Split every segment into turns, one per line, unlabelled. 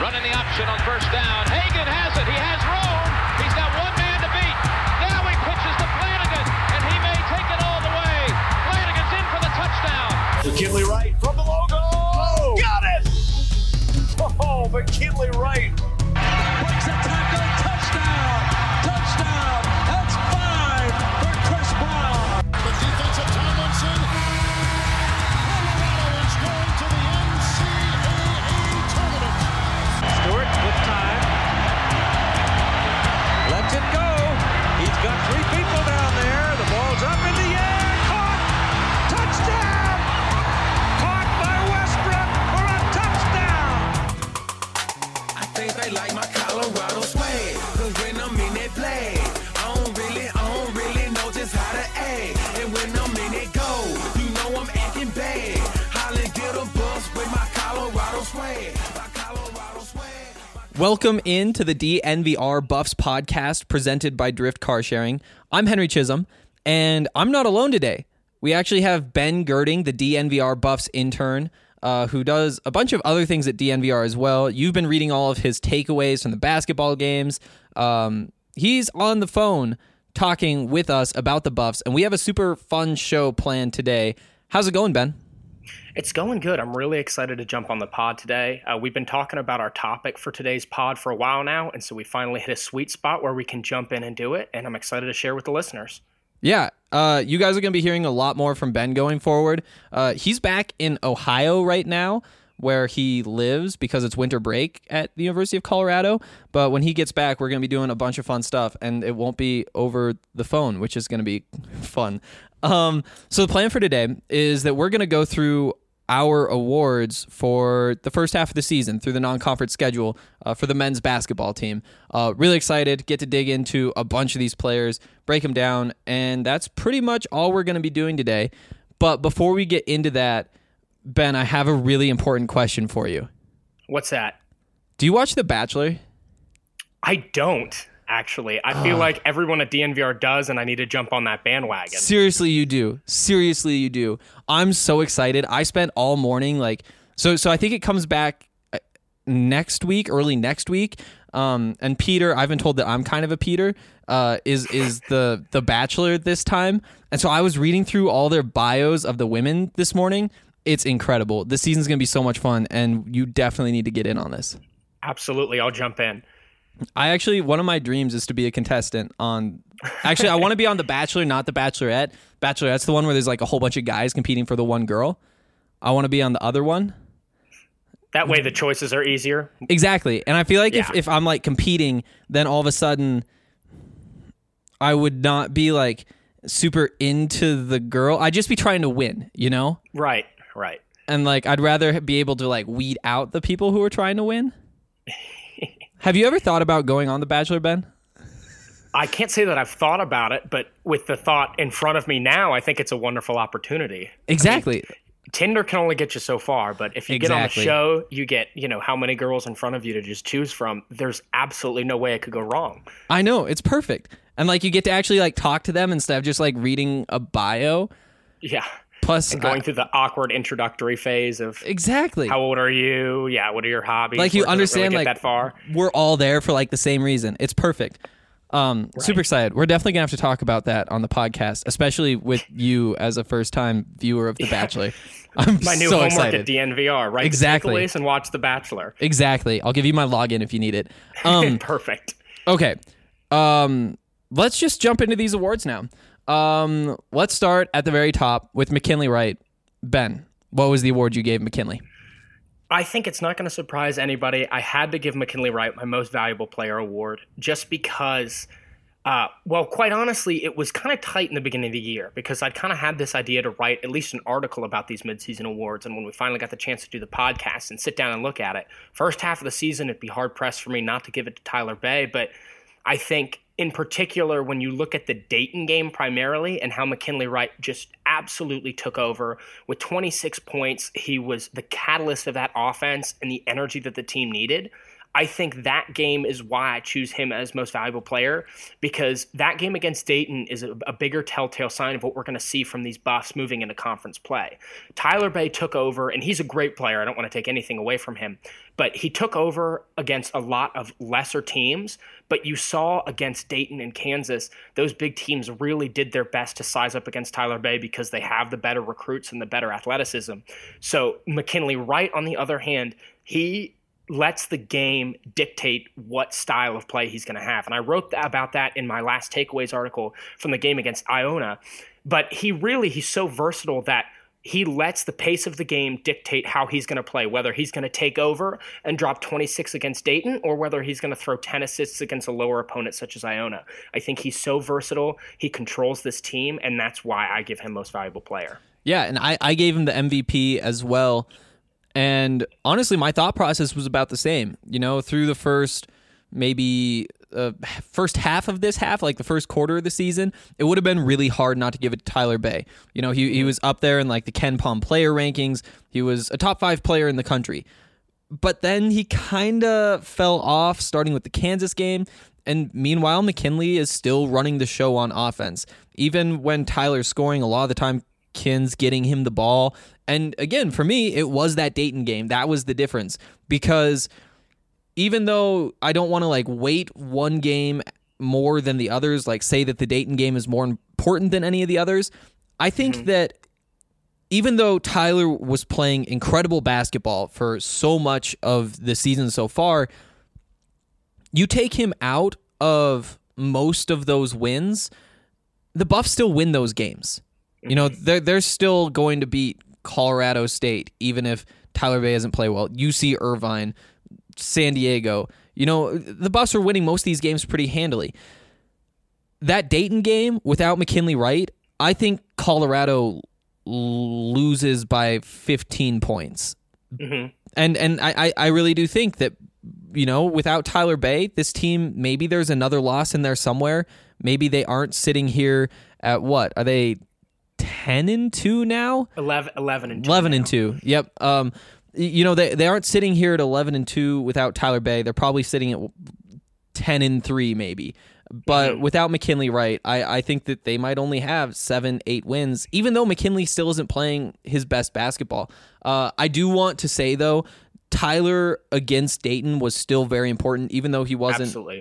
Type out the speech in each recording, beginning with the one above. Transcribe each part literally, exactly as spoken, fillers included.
Running the option on first down. Hagan has it. He has room. He's got one man to beat. Now he pitches to Flanagan, and he may take it all the way. Flanagan's in for the touchdown.
McKinley Wright from the logo. Oh, got it! Oh, McKinley Wright.
Breaks a tackle. Touchdown. Touchdown. That's five for Chris Brown.
The defensive Tomlinson. Colorado is going to the N C double A tournament.
Stewart with time. Lets it go. He's got three people down there. The ball's up in the air. Caught. Touchdown. Caught by Westbrook for a touchdown.
I think they like my Colorado swag. Cause when I'm in that play, I don't really, I don't really know just how to act. And when I'm in it go, you know I'm acting bad. Holland get a bus with my Colorado swag. My Colorado swag.
Welcome into the D N V R Buffs podcast presented by Drift Car Sharing. I'm Henry Chisholm, and I'm not alone today. We actually have Ben Girding, the D N V R Buffs intern, uh, who does a bunch of other things at D N V R as well. You've been reading all of his takeaways from the basketball games. Um, he's on the phone talking with us about the Buffs, and we have a super fun show planned today. How's it going, Ben?
It's going good. I'm really excited to jump on the pod today. Uh, we've been talking about our topic for today's pod for a while now, and so we finally hit a sweet spot where we can jump in and do it, and I'm excited to share with the listeners.
Yeah, uh, you guys are going to be hearing a lot more from Ben going forward. Uh, he's back in Ohio right now, where he lives because it's winter break at the University of Colorado. But when he gets back, we're going to be doing a bunch of fun stuff, and it won't be over the phone, which is going to be fun. Um, so the plan for today is that we're going to go through our awards for the first half of the season through the non-conference schedule uh, for the men's basketball team. Uh, really excited, get to dig into a bunch of these players, break them down, and that's pretty much all we're going to be doing today. But before we get into that, Ben, I have a really important question for you.
What's that?
Do you watch The Bachelor?
I don't, actually. I feel
Oh.
like everyone at D N V R does, and I need to jump on that bandwagon.
Seriously, you do. Seriously, you do. I'm so excited. I spent all morning like so. So I think it comes back next week, early next week. Um, and Peter, I've been told that I'm kind of a Peter. Uh, is is the the Bachelor this time? And so I was reading through all their bios of the women this morning. It's incredible. This season's gonna be so much fun, and you definitely need to get in on this.
Absolutely, I'll jump in.
I actually, one of my dreams is to be a contestant on, actually, I want to be on The Bachelor, not The Bachelorette. Bachelorette's the one where there's like a whole bunch of guys competing for the one girl. I want to be on the other one.
That way the choices are easier.
Exactly. And I feel like
Yeah.
if, if I'm like competing, then all of a sudden I would not be like super into the girl. I'd just be trying to win, you know?
Right, right.
And like, I'd rather be able to like weed out the people who are trying to win. Have you ever thought about going on The Bachelor, Ben?
I can't say that I've thought about it, but with the thought in front of me now, I think it's a wonderful opportunity.
Exactly.
I mean, Tinder can only get you so far, but if you
Exactly.
get on the show, you get, you know, how many girls in front of you to just choose from. There's absolutely no way it could go wrong.
I know, it's perfect. And like you get to actually like talk to them instead of just like reading a bio.
Yeah.
Plus
And going
I-
through the awkward introductory phase of
exactly.
how old are you? Yeah, what are your hobbies?
Like you
Where does it
understand
really get
like
that far.
we're all there for like the same reason. It's perfect. Um, super excited. We're definitely gonna have to talk about that on the podcast, especially with you as a first time viewer of The Bachelor. I'm
My new
so
homework
excited.
at D N V R, right?
Exactly.
The takeaways and watch The Bachelor.
Exactly. I'll give you my login if you need it. Um,
Perfect.
okay. Um, let's just jump into these awards now. Um, let's start at the very top with McKinley Wright. Ben, what was the award you gave McKinley?
I think it's not going to surprise anybody. I had to give McKinley Wright my most valuable player award just because, uh, well, quite honestly, it was kind of tight in the beginning of the year because I'd kind of had this idea to write at least an article about these midseason awards. And when we finally got the chance to do the podcast and sit down and look at it, first half of the season, it'd be hard pressed for me not to give it to Tyler Bay. But I think in particular, when you look at the Dayton game primarily and how McKinley Wright just absolutely took over with twenty-six points, he was the catalyst of that offense and the energy that the team needed. I think that game is why I choose him as most valuable player, because that game against Dayton is a, a bigger telltale sign of what we're going to see from these Buffs moving into conference play. Tyler Bay took over, and he's a great player. I don't want to take anything away from him, but he took over against a lot of lesser teams. But you saw against Dayton and Kansas, those big teams really did their best to size up against Tyler Bay because they have the better recruits and the better athleticism. So McKinley Wright, on the other hand, he lets the game dictate what style of play he's going to have. And I wrote about that in my last takeaways article from the game against Iona. But he really, he's so versatile that he lets the pace of the game dictate how he's going to play, whether he's going to take over and drop twenty-six against Dayton or whether he's going to throw ten assists against a lower opponent such as Iona. I think he's so versatile. He controls this team, and that's why I give him most valuable player.
Yeah, and I, I gave him the M V P as well. And honestly, my thought process was about the same. You know, through the first maybe uh, first half of this half, like the first quarter of the season, it would have been really hard not to give it to Tyler Bay. You know, he he was up there in like the Ken Pom player rankings. He was a top five player in the country. But then he kind of fell off, starting with the Kansas game. And meanwhile, McKinley is still running the show on offense. Even when Tyler's scoring, a lot of the time, Kin's getting him the ball. And again, for me, it was that Dayton game. That was the difference. Because even though I don't want to like weight one game more than the others, like say that the Dayton game is more important than any of the others, I think mm-hmm. that even though Tyler was playing incredible basketball for so much of the season so far, you take him out of most of those wins, the Buffs still win those games. You know, they're, they're still going to beat Colorado State, even if Tyler Bay doesn't play well. U C Irvine, San Diego. You know, the Buffs are winning most of these games pretty handily. That Dayton game, without McKinley Wright, I think Colorado loses by fifteen points. Mm-hmm. And and I, I really do think that, you know, without Tyler Bay, this team, maybe there's another loss in there somewhere. Maybe they aren't sitting here at what? Are they ten and two now?
eleven, eleven and two.
eleven
now.
and two. Yep. Um, you know, they they aren't sitting here at eleven and two without Tyler Bay. They're probably sitting at ten and three maybe. But mm-hmm. without McKinley Wright, I, I think that they might only have seven, eight wins, even though McKinley still isn't playing his best basketball. Uh, I do want to say, though, Tyler against Dayton was still very important, even though he wasn't
Absolutely.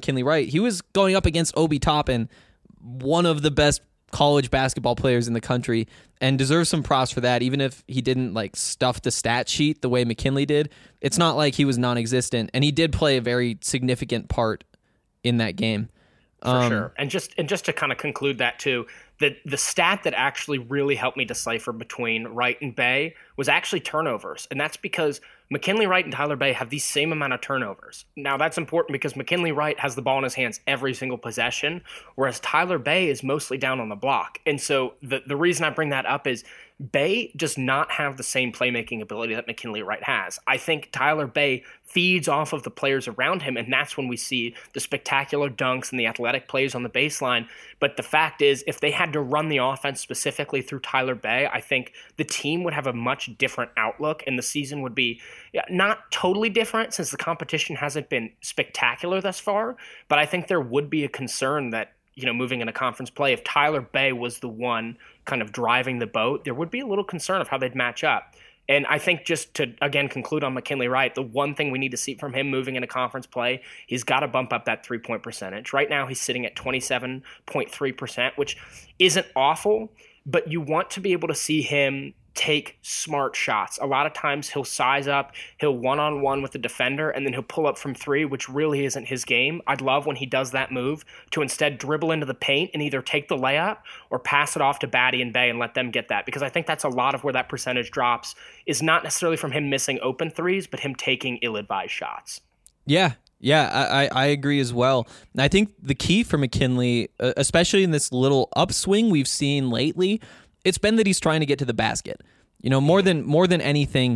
For um, sure. And just and just to kind of conclude that too, the the stat that actually really helped me decipher between Wright and Bay was actually turnovers. And that's because McKinley Wright and Tyler Bay have the same amount of turnovers. Now that's important because McKinley Wright has the ball in his hands every single possession, whereas Tyler Bay is mostly down on the block. And so the, the reason I bring that up is Bay does not have the same playmaking ability that McKinley Wright has. I think Tyler Bay feeds off of the players around him, and that's when we see the spectacular dunks and the athletic plays on the baseline. But the fact is, if they had to run the offense specifically through Tyler Bay, I think the team would have a much different outlook, and the season would be not totally different since the competition hasn't been spectacular thus far. But I think there would be a concern that, you know, moving into conference play, if Tyler Bay was the one kind of driving the boat, there would be a little concern of how they'd match up. And I think just to, again, conclude on McKinley Wright, the one thing we need to see from him moving into conference play, he's got to bump up that three-point percentage. Right now, he's sitting at twenty-seven point three percent, which isn't awful, but you want to be able to see him take smart shots. A lot of times he'll size up, he'll one-on-one with the defender, and then he'll pull up from three, which really isn't his game. I'd love when he does that move to instead dribble into the paint and either take the layup or pass it off to Batty and Bay and let them get that, because I think that's a lot of where that percentage drops, is not necessarily from him missing open threes, but him taking ill-advised shots.
Yeah, yeah, I, I agree as well. And I think the key for McKinley, especially in this little upswing we've seen lately, it's been that he's trying to get to the basket. You know, more than more than anything,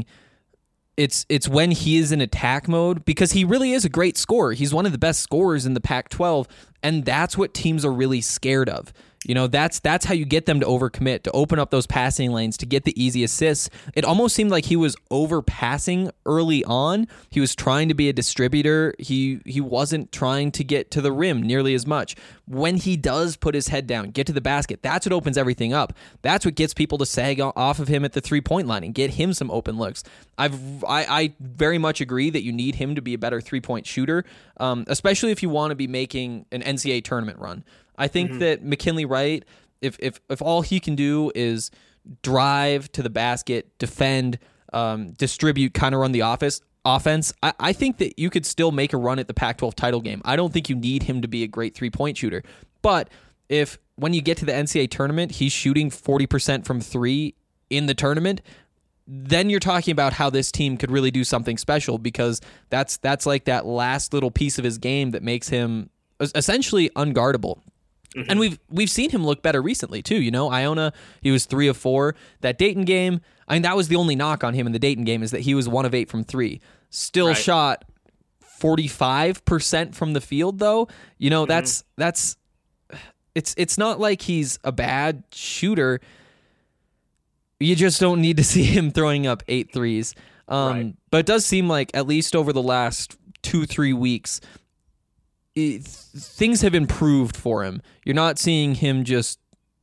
it's it's when he is in attack mode, because he really is a great scorer. He's one of the best scorers in the Pac twelve, and that's what teams are really scared of. You know, that's that's how you get them to overcommit, to open up those passing lanes, to get the easy assists. It almost seemed like he was overpassing early on. He was trying to be a distributor. He he wasn't trying to get to the rim nearly as much. When he does put his head down, get to the basket, that's what opens everything up. That's what gets people to sag off of him at the three-point line and get him some open looks. I've I, I very much agree that you need him to be a better three-point shooter, um, especially if you want to be making an N C double A tournament run. I think mm-hmm. that McKinley Wright, if if if all he can do is drive to the basket, defend, um, distribute, kind of run the office offense, I, I think that you could still make a run at the Pac twelve title game. I don't think you need him to be a great three-point shooter. But if when you get to the N C double A tournament, he's shooting forty percent from three in the tournament, then you're talking about how this team could really do something special, because that's that's like that last little piece of his game that makes him essentially unguardable. Mm-hmm. And we've we've seen him look better recently too. You know, Iona, he was three of four. That Dayton game, I mean, that was the only knock on him in the Dayton game, is that he was one of eight from three. Still right. shot forty-five percent from the field, though. You know, mm-hmm. that's that's it's it's not like he's a bad shooter. You just don't need to see him throwing up eight threes. Um, right. But it does seem like, at least over the last two, three weeks, it, things have improved for him. You're not seeing him just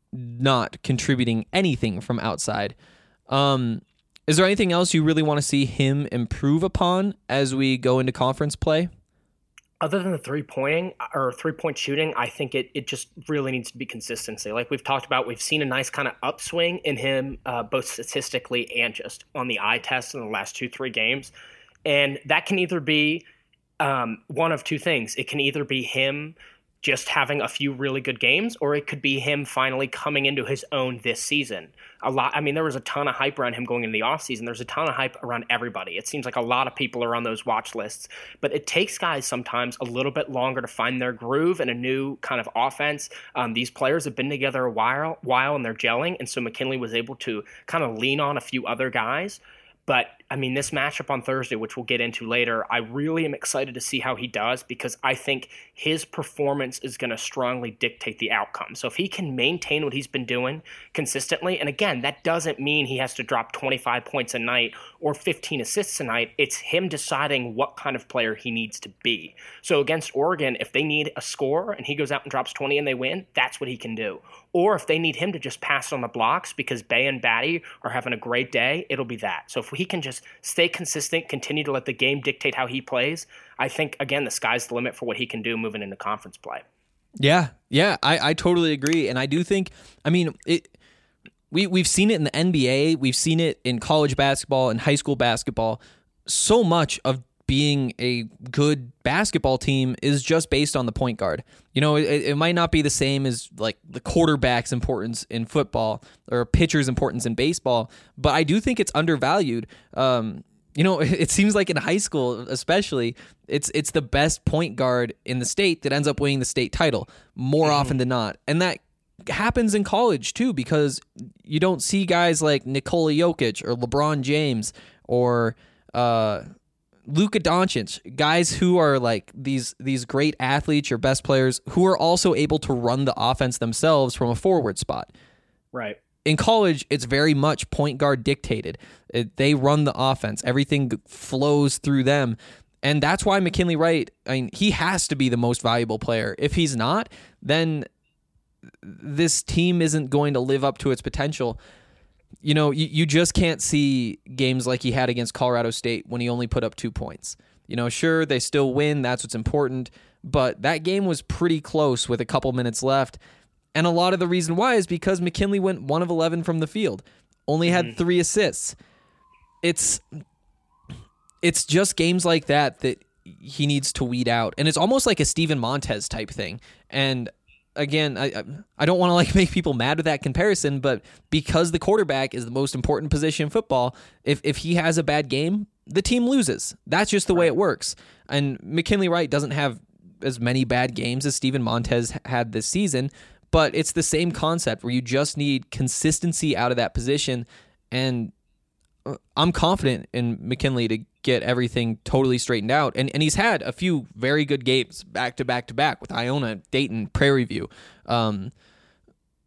not contributing anything from outside. Um, is there anything else you really want to see him improve upon as we go into conference play?
Other than the three-pointing or three-point shooting, I think it, it just really needs to be consistency. Like we've talked about, we've seen a nice kind of upswing in him, uh, both statistically and just on the eye test in the last two, three games. And that can either be um, one of two things. It can either be him just having a few really good games, or it could be him finally coming into his own this season. A lot. I mean, there was a ton of hype around him going into the offseason. There's a ton of hype around everybody. It seems like a lot of people are on those watch lists, but it takes guys sometimes a little bit longer to find their groove and a new kind of offense. Um, these players have been together a while, while and they're gelling, and so McKinley was able to kind of lean on a few other guys. But, I mean, this matchup on Thursday, which we'll get into later, I really am excited to see how he does, because I think his performance is going to strongly dictate the outcome. So if he can maintain what he's been doing consistently, and again, that doesn't mean he has to drop twenty-five points a night or fifteen assists a night. It's him deciding what kind of player he needs to be. So against Oregon, if they need a score and he goes out and drops twenty and they win, that's what he can do. Or if they need him to just pass on the blocks because Bay and Batty are having a great day, it'll be that. So if he can just stay consistent, continue to let the game dictate how he plays, I think, again, the sky's the limit for what he can do moving into conference play.
Yeah, yeah, I, I totally agree. And I do think, I mean, it, we, we've seen it in the N B A, we've seen it in college basketball and high school basketball. So much of being a good basketball team is just based on the point guard. You know, it, it might not be the same as like the quarterback's importance in football or pitcher's importance in baseball, but I do think it's undervalued. Um, you know, it seems like in high school, especially, it's it's the best point guard in the state that ends up winning the state title more mm-hmm. often than not. And that happens in college too, because you don't see guys like Nikola Jokic or LeBron James or uh Luka Doncic, guys who are like these these great athletes or best players who are also able to run the offense themselves from a forward spot.
Right.
In college, it's very much point guard dictated. It, they run the offense. Everything flows through them. And that's why McKinley Wright, I mean, he has to be the most valuable player. If he's not, then this team isn't going to live up to its potential. You know, you, you just can't see games like he had against Colorado State when he only put up two points. You know, sure, they still win. That's what's important. But that game was pretty close with a couple minutes left. And a lot of the reason why is because McKinley went one of eleven from the field, only had mm-hmm. three assists. It's, it's just games like that that he needs to weed out. And it's almost like a Steven Montez type thing. And again, I I don't want to like make people mad with that comparison, but because the quarterback is the most important position in football, if if he has a bad game, the team loses. That's just the way it works. And McKinley Wright doesn't have as many bad games as Steven Montez had this season, but it's the same concept where you just need consistency out of that position. And I'm confident in McKinley to get everything totally straightened out. And and he's had a few very good games back to back to back with Iona, Dayton, Prairie View. Um,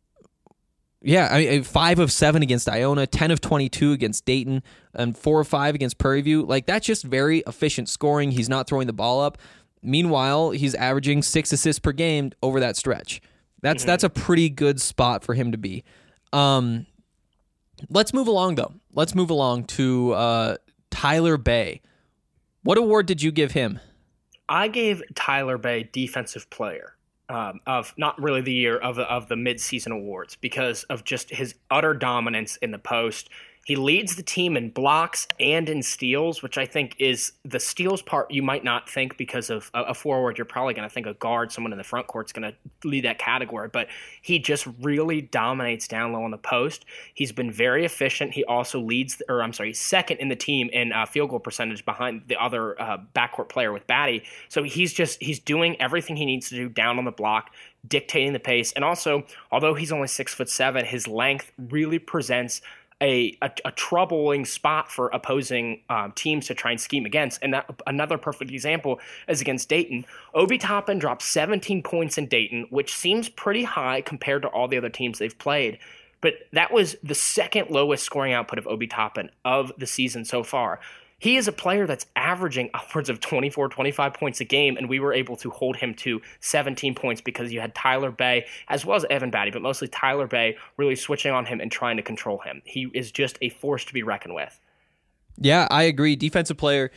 Yeah, I mean, five of seven against Iona, ten of twenty-two against Dayton, and four of five against Prairie View. Like, that's just very efficient scoring. He's not throwing the ball up. Meanwhile, he's averaging six assists per game over that stretch. That's mm-hmm. that's a pretty good spot for him to be. Um, let's move along, though. Let's move along to uh, Tyler Bay. What award did you give him?
I gave Tyler Bay Defensive Player. Um, of not really the year of of the midseason awards because of just his utter dominance in the post. He leads the team in blocks and in steals, which I think is the steals part you might not think because of a, a forward. You're probably going to think a guard, someone in the front court is going to lead that category. But he just really dominates down low on the post. He's been very efficient. He also leads, or I'm sorry, second in the team in uh, field goal percentage behind the other uh, backcourt player with Batty. So he's just he's doing everything he needs to do down on the block, dictating the pace. And also, although he's only six foot seven, his length really presents A, a, a troubling spot for opposing um, teams to try and scheme against. And that, another perfect example is against Dayton. Obi Toppin dropped seventeen points in Dayton, which seems pretty high compared to all the other teams they've played. But that was the second lowest scoring output of Obi Toppin of the season so far. He is a player that's averaging upwards of twenty-four, twenty-five points a game, and we were able to hold him to seventeen points because you had Tyler Bay as well as Evan Batty, but mostly Tyler Bay really switching on him and trying to control him. He is just a force to be reckoned with.
Yeah, I agree. Defensive player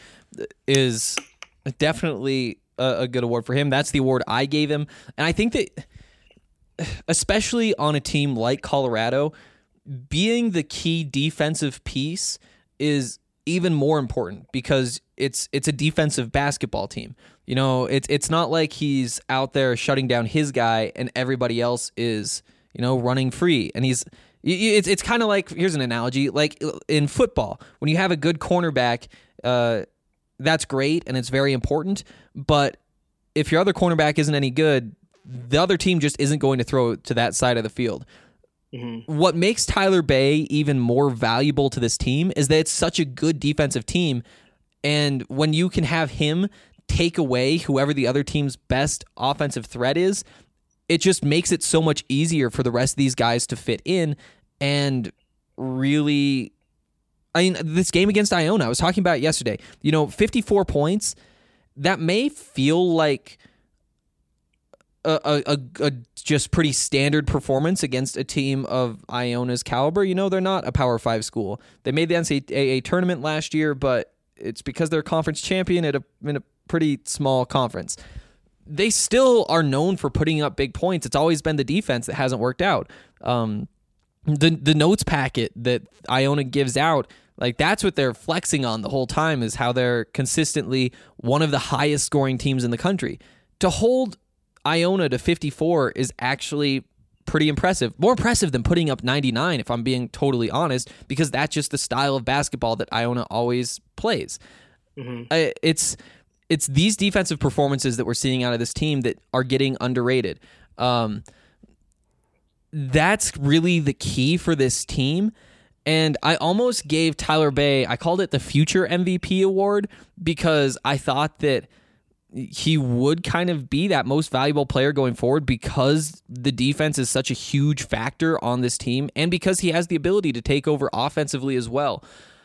is definitely a, a good award for him. That's the award I gave him. And I think that, especially on a team like Colorado, being the key defensive piece is even more important because it's it's a defensive basketball team. You know, it's it's not like he's out there shutting down his guy and everybody else is, you know, running free. And he's it's it's kind of like, here's an analogy, like in football, when you have a good cornerback, uh, that's great and it's very important. But if your other cornerback isn't any good, the other team just isn't going to throw to that side of the field. Mm-hmm. What makes Tyler Bay even more valuable to this team is that it's such a good defensive team, and when you can have him take away whoever the other team's best offensive threat is, it just makes it so much easier for the rest of these guys to fit in and really... I mean, this game against Iona, I was talking about it yesterday, you know, fifty-four points, that may feel like A, a, a just pretty standard performance against a team of Iona's caliber. You know, they're not a Power Five school. They made the N C double A tournament last year, but it's because they're conference champion at a in a pretty small conference. They still are known for putting up big points. It's always been the defense that hasn't worked out. Um, the the notes packet that Iona gives out, like that's what they're flexing on the whole time, is how they're consistently one of the highest scoring teams in the country. To hold Iona to fifty-four is actually pretty impressive. More impressive than putting up ninety-nine, if I'm being totally honest, because that's just the style of basketball that Iona always plays. Mm-hmm. Uh, it's it's these defensive performances that we're seeing out of this team that are getting underrated. Um, that's really the key for this team. And I almost gave Tyler Bay, I called it the future M V P award, because I thought that he would kind of be that most valuable player going forward because the defense is such a huge factor on this team and because he has the ability to take over offensively as well.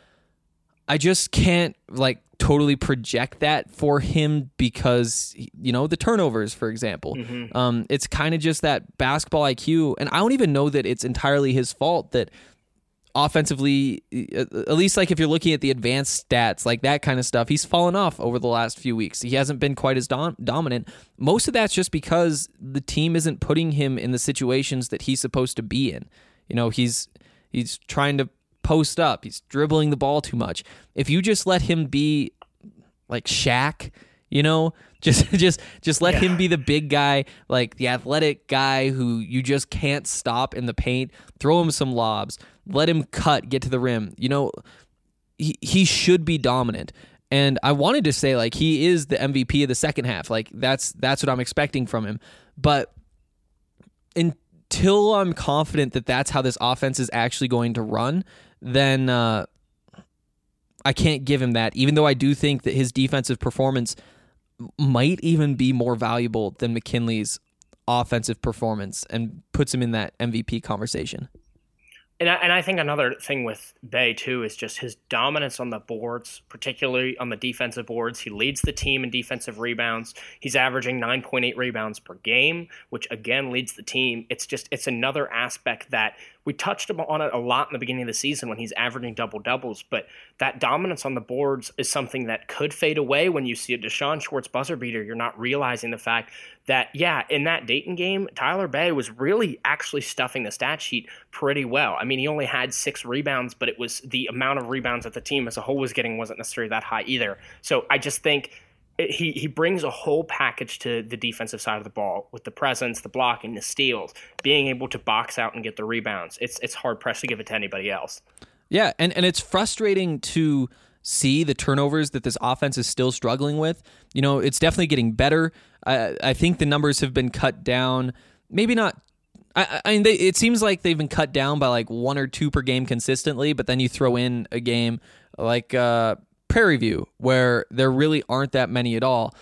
I just can't like totally project that for him because, you know, the turnovers, for example. Mm-hmm. Um, it's kind of just that basketball I Q, and I don't even know that it's entirely his fault that offensively, at least like if you're looking at the advanced stats, like that kind of stuff, he's fallen off over the last few weeks. He hasn't been quite as dom- dominant. Most of that's just because the team isn't putting him in the situations that he's supposed to be in. You know, he's he's trying to post up. He's dribbling the ball too much. If you just let him be like Shaq, you know, just just just let yeah. him be the big guy, like the athletic guy who you just can't stop in the paint. Throw him some lobs. Let him cut, get to the rim. You know, he he should be dominant. And I wanted to say like he is the M V P of the second half. Like that's that's what I'm expecting from him. But until I'm confident that that's how this offense is actually going to run, then uh, I can't give him that. Even though I do think that his defensive performance might even be more valuable than McKinley's offensive performance and puts him in that M V P conversation.
And I, and I think another thing with Bey, too, is just his dominance on the boards, particularly on the defensive boards. He leads the team in defensive rebounds. He's averaging nine point eight rebounds per game, which, again, leads the team. It's just it's another aspect that we touched on it a lot in the beginning of the season when he's averaging double-doubles, but that dominance on the boards is something that could fade away when you see a Deshaun Schwartz buzzer beater. You're not realizing the fact that, yeah, in that Dayton game, Tyler Bey was really actually stuffing the stat sheet pretty well. I mean, he only had six rebounds, but it was the amount of rebounds that the team as a whole was getting wasn't necessarily that high either. So I just think he he brings a whole package to the defensive side of the ball with the presence, the blocking, the steals, being able to box out and get the rebounds. It's it's hard pressed to give it to anybody else.
Yeah, and, and it's frustrating to see the turnovers that this offense is still struggling with. You know, it's definitely getting better. I, I think the numbers have been cut down. Maybe not. I, I mean, they, it seems like they've been cut down by like one or two per game consistently, but then you throw in a game like uh, Prairie View where there really aren't that many at all.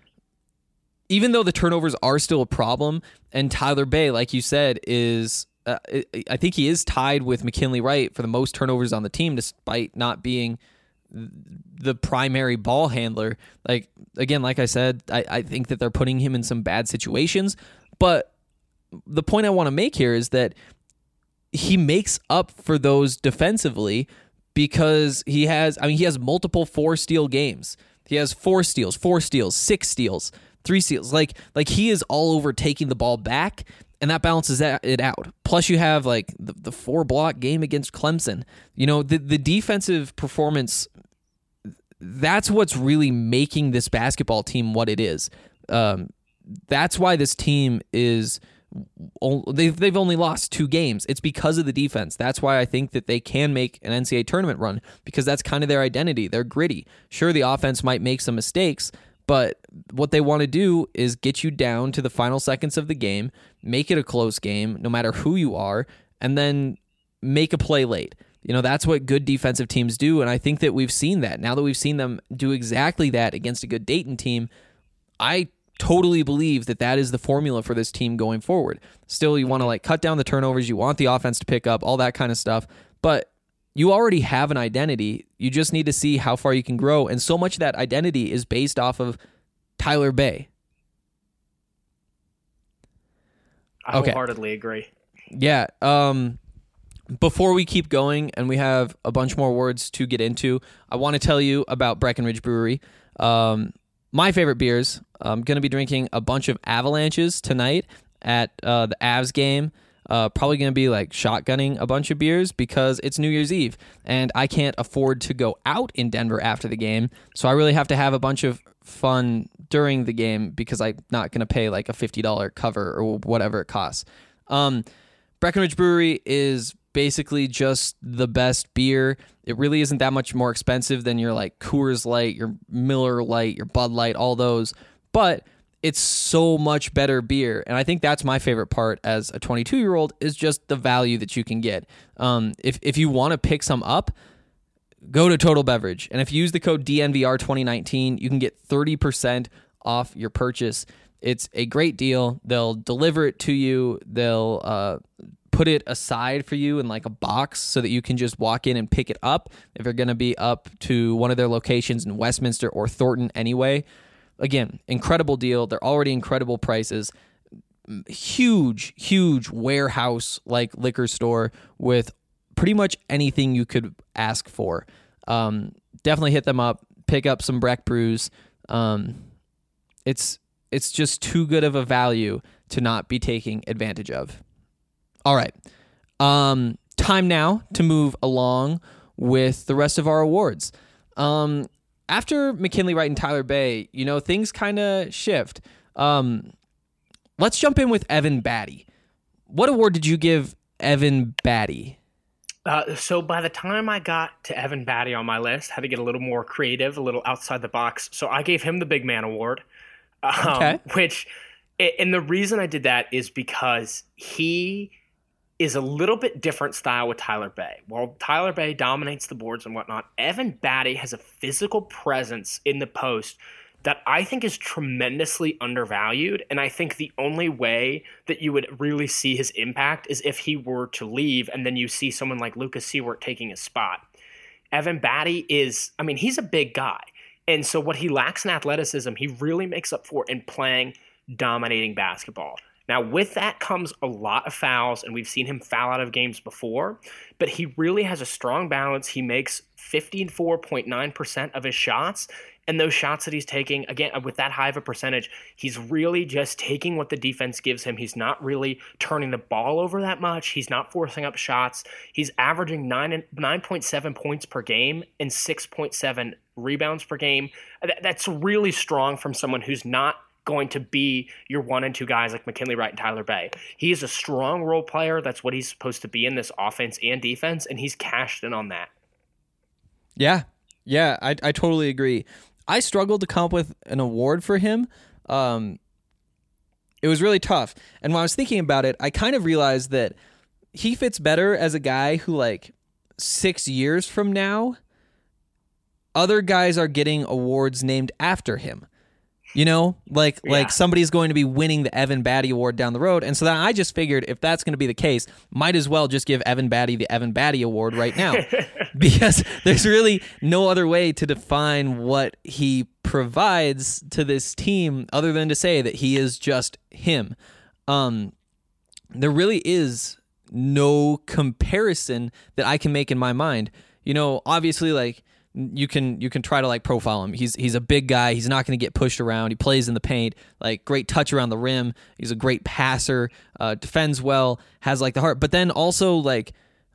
Even though the turnovers are still a problem, and Tyler Bey, like you said, is uh, I think he is tied with McKinley Wright for the most turnovers on the team, despite not being the primary ball handler. Like, again, like I said, I, I think that they're putting him in some bad situations, but the point I want to make here is that he makes up for those defensively because he has, I mean, he has multiple four steal games. He has four steals, four steals, six steals, three steals. Like, like he is all over taking the ball back, and that balances it out. Plus, you have like the, the four block game against Clemson. You know, the the defensive performance. That's what's really making this basketball team what it is. Um, that's why this team is. They've they've only lost two games. It's because of the defense. That's why I think that they can make an N C double A tournament run, because that's kind of their identity. They're gritty. Sure, the offense might make some mistakes, but what they want to do is get you down to the final seconds of the game, make it a close game, no matter who you are, and then make a play late. You know, that's what good defensive teams do, and I think that we've seen that. Now that we've seen them do exactly that against a good Dayton team, I totally believe that that is the formula for this team going forward. Still, you want to like cut down the turnovers, you want the offense to pick up, all that kind of stuff, but you already have an identity. You just need to see how far you can grow, and so much of that identity is based off of Tyler Bey.
I okay. wholeheartedly agree.
Yeah. Um, before we keep going, and we have a bunch more words to get into, I want to tell you about Breckenridge Brewery. Um, my favorite beers. I'm going to be drinking a bunch of Avalanches tonight at uh, the Avs game. Uh, probably going to be like shotgunning a bunch of beers because it's New Year's Eve and I can't afford to go out in Denver after the game. So I really have to have a bunch of fun during the game because I'm not going to pay like a fifty dollars cover or whatever it costs. Um, Breckenridge Brewery is basically just the best beer. It really isn't that much more expensive than your like Coors Light, your Miller Lite, your Bud Light, all those. But it's so much better beer. And I think that's my favorite part as a twenty-two-year-old is just the value that you can get. Um, if, if you want to pick some up, go to Total Beverage. And if you use the code D N V R twenty nineteen, you can get thirty percent off your purchase. It's a great deal. They'll deliver it to you. They'll uh, put it aside for you in like a box so that you can just walk in and pick it up if you're going to be up to one of their locations in Westminster or Thornton anyway. Again, incredible deal. They're already incredible prices. Huge, huge warehouse-like liquor store with pretty much anything you could ask for. Um, definitely hit them up. Pick up some Breck brews. Um, it's it's just too good of a value to not be taking advantage of. All right. Um, time now to move along with the rest of our awards. Um, after McKinley Wright and Tyler Bey, you know, things kind of shift. Um, let's jump in with Evan Batty. What award did you give Evan Batty?
Uh, so by the time I got to Evan Batty on my list, I had to get a little more creative, a little outside the box. So I gave him the Big Man Award, um, okay. which, and the reason I did that is because he is a little bit different style with Tyler Bey. While Tyler Bey dominates the boards and whatnot, Evan Batty has a physical presence in the post that I think is tremendously undervalued. And I think the only way that you would really see his impact is if he were to leave and then you see someone like Lucas Seward taking his spot. Evan Batty is, I mean, he's a big guy. And so what he lacks in athleticism, he really makes up for in playing dominating basketball. Now, with that comes a lot of fouls, and we've seen him foul out of games before, but he really has a strong balance. He makes fifty-four point nine percent of his shots, and those shots that he's taking, again, with that high of a percentage, he's really just taking what the defense gives him. He's not really turning the ball over that much. He's not forcing up shots. He's averaging nine nine point seven points per game and six point seven rebounds per game. That's really strong from someone who's not going to be your one and two guys like McKinley Wright and Tyler Bey. He is a strong role player. That's what he's supposed to be in this offense and defense, and he's cashed in on that.
Yeah, yeah, I I totally agree. I struggled to come up with an award for him. Um, it was really tough. And when I was thinking about it, I kind of realized that he fits better as a guy who, like, six years from now, other guys are getting awards named after him. You know, like yeah. like somebody's going to be winning the Evan Batty Award down the road. And so then I just figured if that's going to be the case, might as well just give Evan Batty the Evan Batty Award right now. Because there's really no other way to define what he provides to this team other than to say that he is just him. Um, there really is no comparison that I can make in my mind. You know, obviously, like, You can you can try to like profile him. He's he's a big guy. He's not going to get pushed around. He plays in the paint. Like, great touch around the rim. He's a great passer. Uh, defends well. Has like the heart. But then also, like,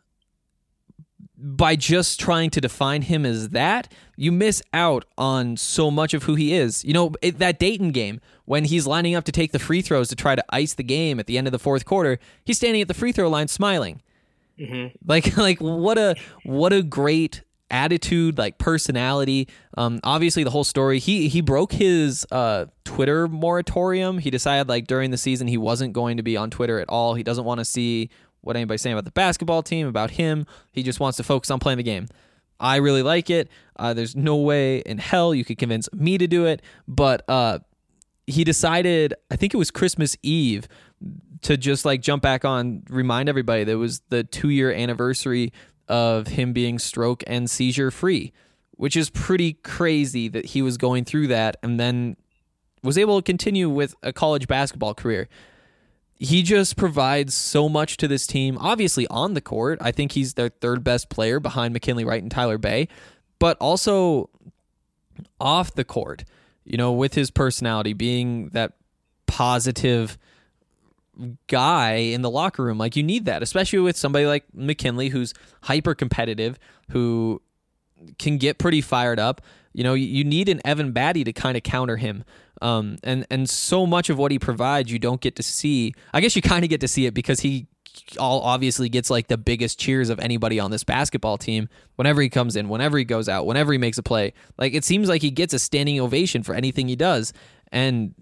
by just trying to define him as that, you miss out on so much of who he is. You know, it, that Dayton game when he's lining up to take the free throws to try to ice the game at the end of the fourth quarter, he's standing at the free throw line smiling. Mm-hmm. Like like what a what a great attitude, like personality. Um, obviously the whole story, he he broke his uh, Twitter moratorium. He decided like during the season he wasn't going to be on Twitter at all. He doesn't want to see what anybody's saying about the basketball team, about him. He just wants to focus on playing the game. I really like it. Uh, there's no way in hell you could convince me to do it, but uh, he decided, I think it was Christmas Eve, to just like jump back on, remind everybody that it was the two-year anniversary of him being stroke and seizure free, which is pretty crazy that he was going through that and then was able to continue with a college basketball career. He just provides so much to this team. Obviously on the court, I think he's their third best player behind McKinley Wright and Tyler Bey, but also off the court, you know, with his personality, being that positive guy in the locker room. Like, you need that, especially with somebody like McKinley, who's hyper competitive, who can get pretty fired up. You know, you need an Evan Batty to kind of counter him. Um, and, and so much of what he provides, you don't get to see. I guess you kind of get to see it because he all obviously gets like the biggest cheers of anybody on this basketball team whenever he comes in, whenever he goes out, whenever he makes a play. Like, it seems like he gets a standing ovation for anything he does. And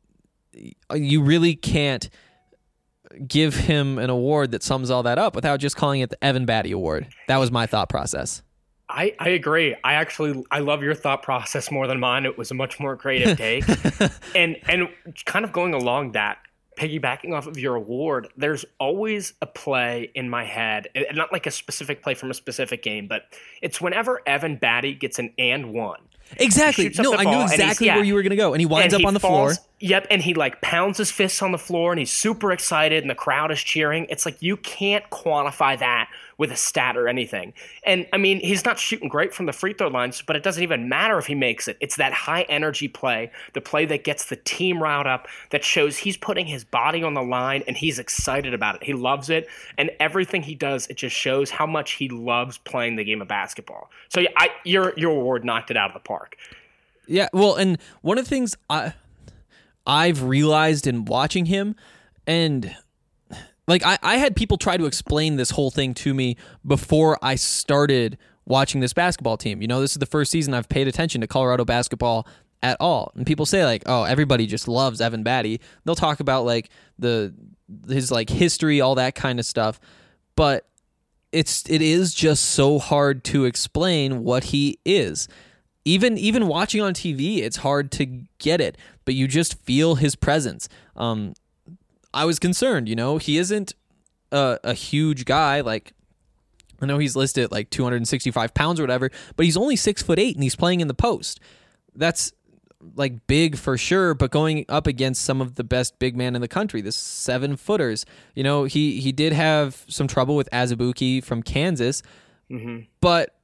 you really can't give him an award that sums all that up without just calling it the Evan Batty Award. That was my thought process.
I, I agree. I actually, I love your thought process more than mine. It was a much more creative take. and and kind of going along that, piggybacking off of your award, there's always a play in my head, and not like a specific play from a specific game, but it's whenever Evan Batty gets an and one.
Exactly. No, I knew exactly yeah, where you were going to go. And he winds up on the falls, floor.
Yep. And he like pounds his fists on the floor and he's super excited and the crowd is cheering. It's like, you can't quantify that with a stat or anything. And I mean, he's not shooting great from the free throw lines, but it doesn't even matter if he makes it. It's that high energy play, the play that gets the team riled up, that shows he's putting his body on the line and he's excited about it. He loves it. And everything he does, it just shows how much he loves playing the game of basketball. So yeah, I, your, your award knocked it out of the park.
Yeah, well, and one of the things I, I've realized in watching him, and like I, I had people try to explain this whole thing to me before I started watching this basketball team. You know, this is the first season I've paid attention to Colorado basketball at all. And people say like, oh, everybody just loves Evan Batty. They'll talk about like the his like history, all that kind of stuff. But it's it is just so hard to explain what he is. even even watching on T V, it's hard to get it, but you just feel his presence. Um, I was concerned, you know, he isn't a, a huge guy. Like, I know he's listed at like two hundred sixty-five pounds or whatever, but he's only six foot eight and he's playing in the post. That's like big for sure, but going up against some of the best big men in the country, the seven footers, you know, he, he did have some trouble with Azubuike from Kansas, mm-hmm. but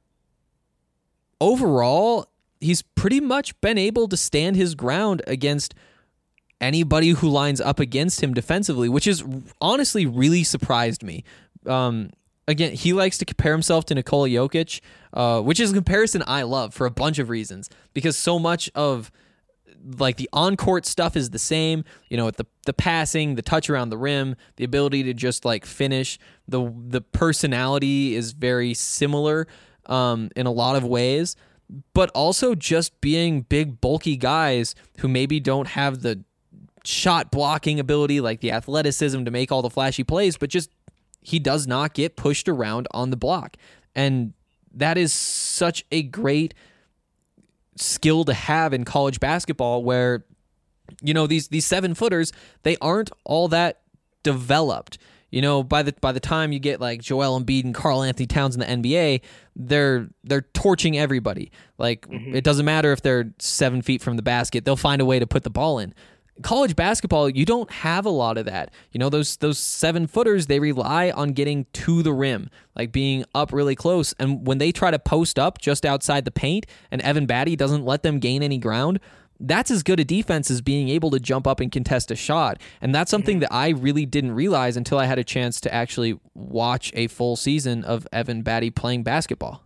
overall, he's pretty much been able to stand his ground against anybody who lines up against him defensively, which is honestly really surprised me. Um, again, he likes to compare himself to Nikola Jokic, uh, which is a comparison I love for a bunch of reasons, because so much of like the on-court stuff is the same, you know, the the passing, the touch around the rim, the ability to just like finish, the the personality is very similar um, in a lot of ways, but also just being big, bulky guys who maybe don't have the shot blocking ability, like the athleticism to make all the flashy plays, but just he does not get pushed around on the block. And that is such a great skill to have in college basketball where, you know, these these seven footers, they aren't all that developed. You know, by the by the time you get like Joel Embiid and Karl Anthony Towns in the N B A, they're they're torching everybody. Like mm-hmm. It doesn't matter if they're seven feet from the basket, they'll find a way to put the ball in. College basketball, you don't have a lot of that. You know, those those seven footers, they rely on getting to the rim, like being up really close. And when they try to post up just outside the paint and Evan Batty doesn't let them gain any ground, that's as good a defense as being able to jump up and contest a shot. And that's something that I really didn't realize until I had a chance to actually watch a full season of Evan Batty playing basketball.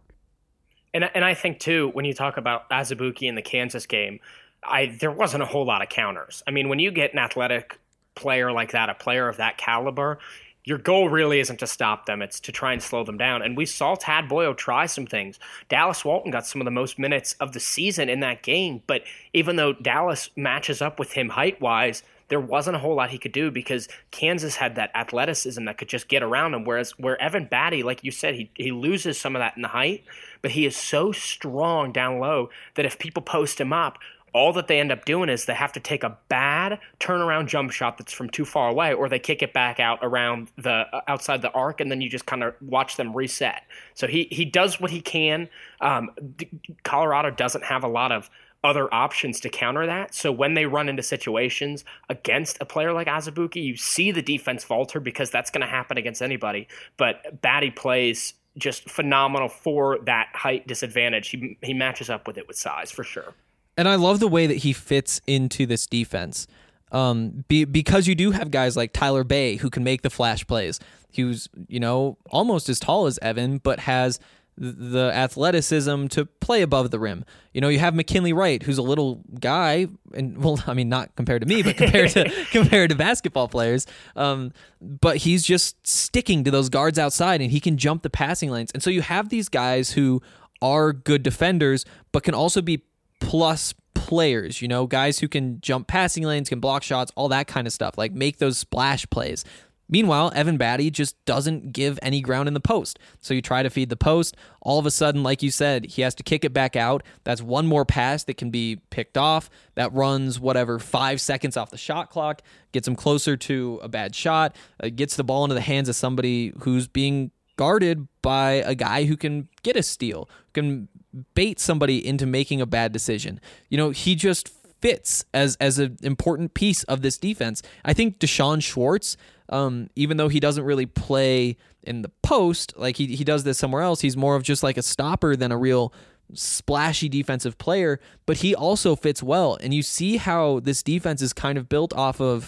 And and I think, too, when you talk about Azubuike in the Kansas game, I there wasn't a whole lot of counters. I mean, when you get an athletic player like that, a player of that caliber, your goal really isn't to stop them. It's to try and slow them down. And we saw Tad Boyle try some things. Dallas Walton got some of the most minutes of the season in that game. But even though Dallas matches up with him height-wise, there wasn't a whole lot he could do because Kansas had that athleticism that could just get around him. Whereas where Evan Batty, like you said, he, he loses some of that in the height, but he is so strong down low that if people post him up, all that they end up doing is they have to take a bad turnaround jump shot that's from too far away, or they kick it back out around the outside the arc, and then you just kind of watch them reset. So he he does what he can. Um, Colorado doesn't have a lot of other options to counter that. So when they run into situations against a player like Azubuike, you see the defense falter because that's going to happen against anybody. But Batty plays just phenomenal for that height disadvantage. He he matches up with it with size for sure.
And I love the way that he fits into this defense um, be, because you do have guys like Tyler Bay who can make the flash plays. He was, you know, almost as tall as Evan, but has the athleticism to play above the rim. You know, you have McKinley Wright, who's a little guy, and well, I mean, not compared to me, but compared to compared to basketball players. Um, but he's just sticking to those guards outside, and he can jump the passing lanes. And so you have these guys who are good defenders, but can also be plus players, you know, guys who can jump passing lanes, can block shots, all that kind of stuff, like make those splash plays. Meanwhile, Evan Batty just doesn't give any ground in the post. So you try to feed the post. All of a sudden, like you said, he has to kick it back out. That's one more pass that can be picked off. That runs, whatever, five seconds off the shot clock, gets him closer to a bad shot, uh, gets the ball into the hands of somebody who's being guarded by a guy who can get a steal, can bait somebody into making a bad decision. You know, he just fits as as an important piece of this defense. I think Deshaun Schwartz, um, even though he doesn't really play in the post, like he, he does this somewhere else, he's more of just like a stopper than a real splashy defensive player, but he also fits well. And you see how this defense is kind of built off of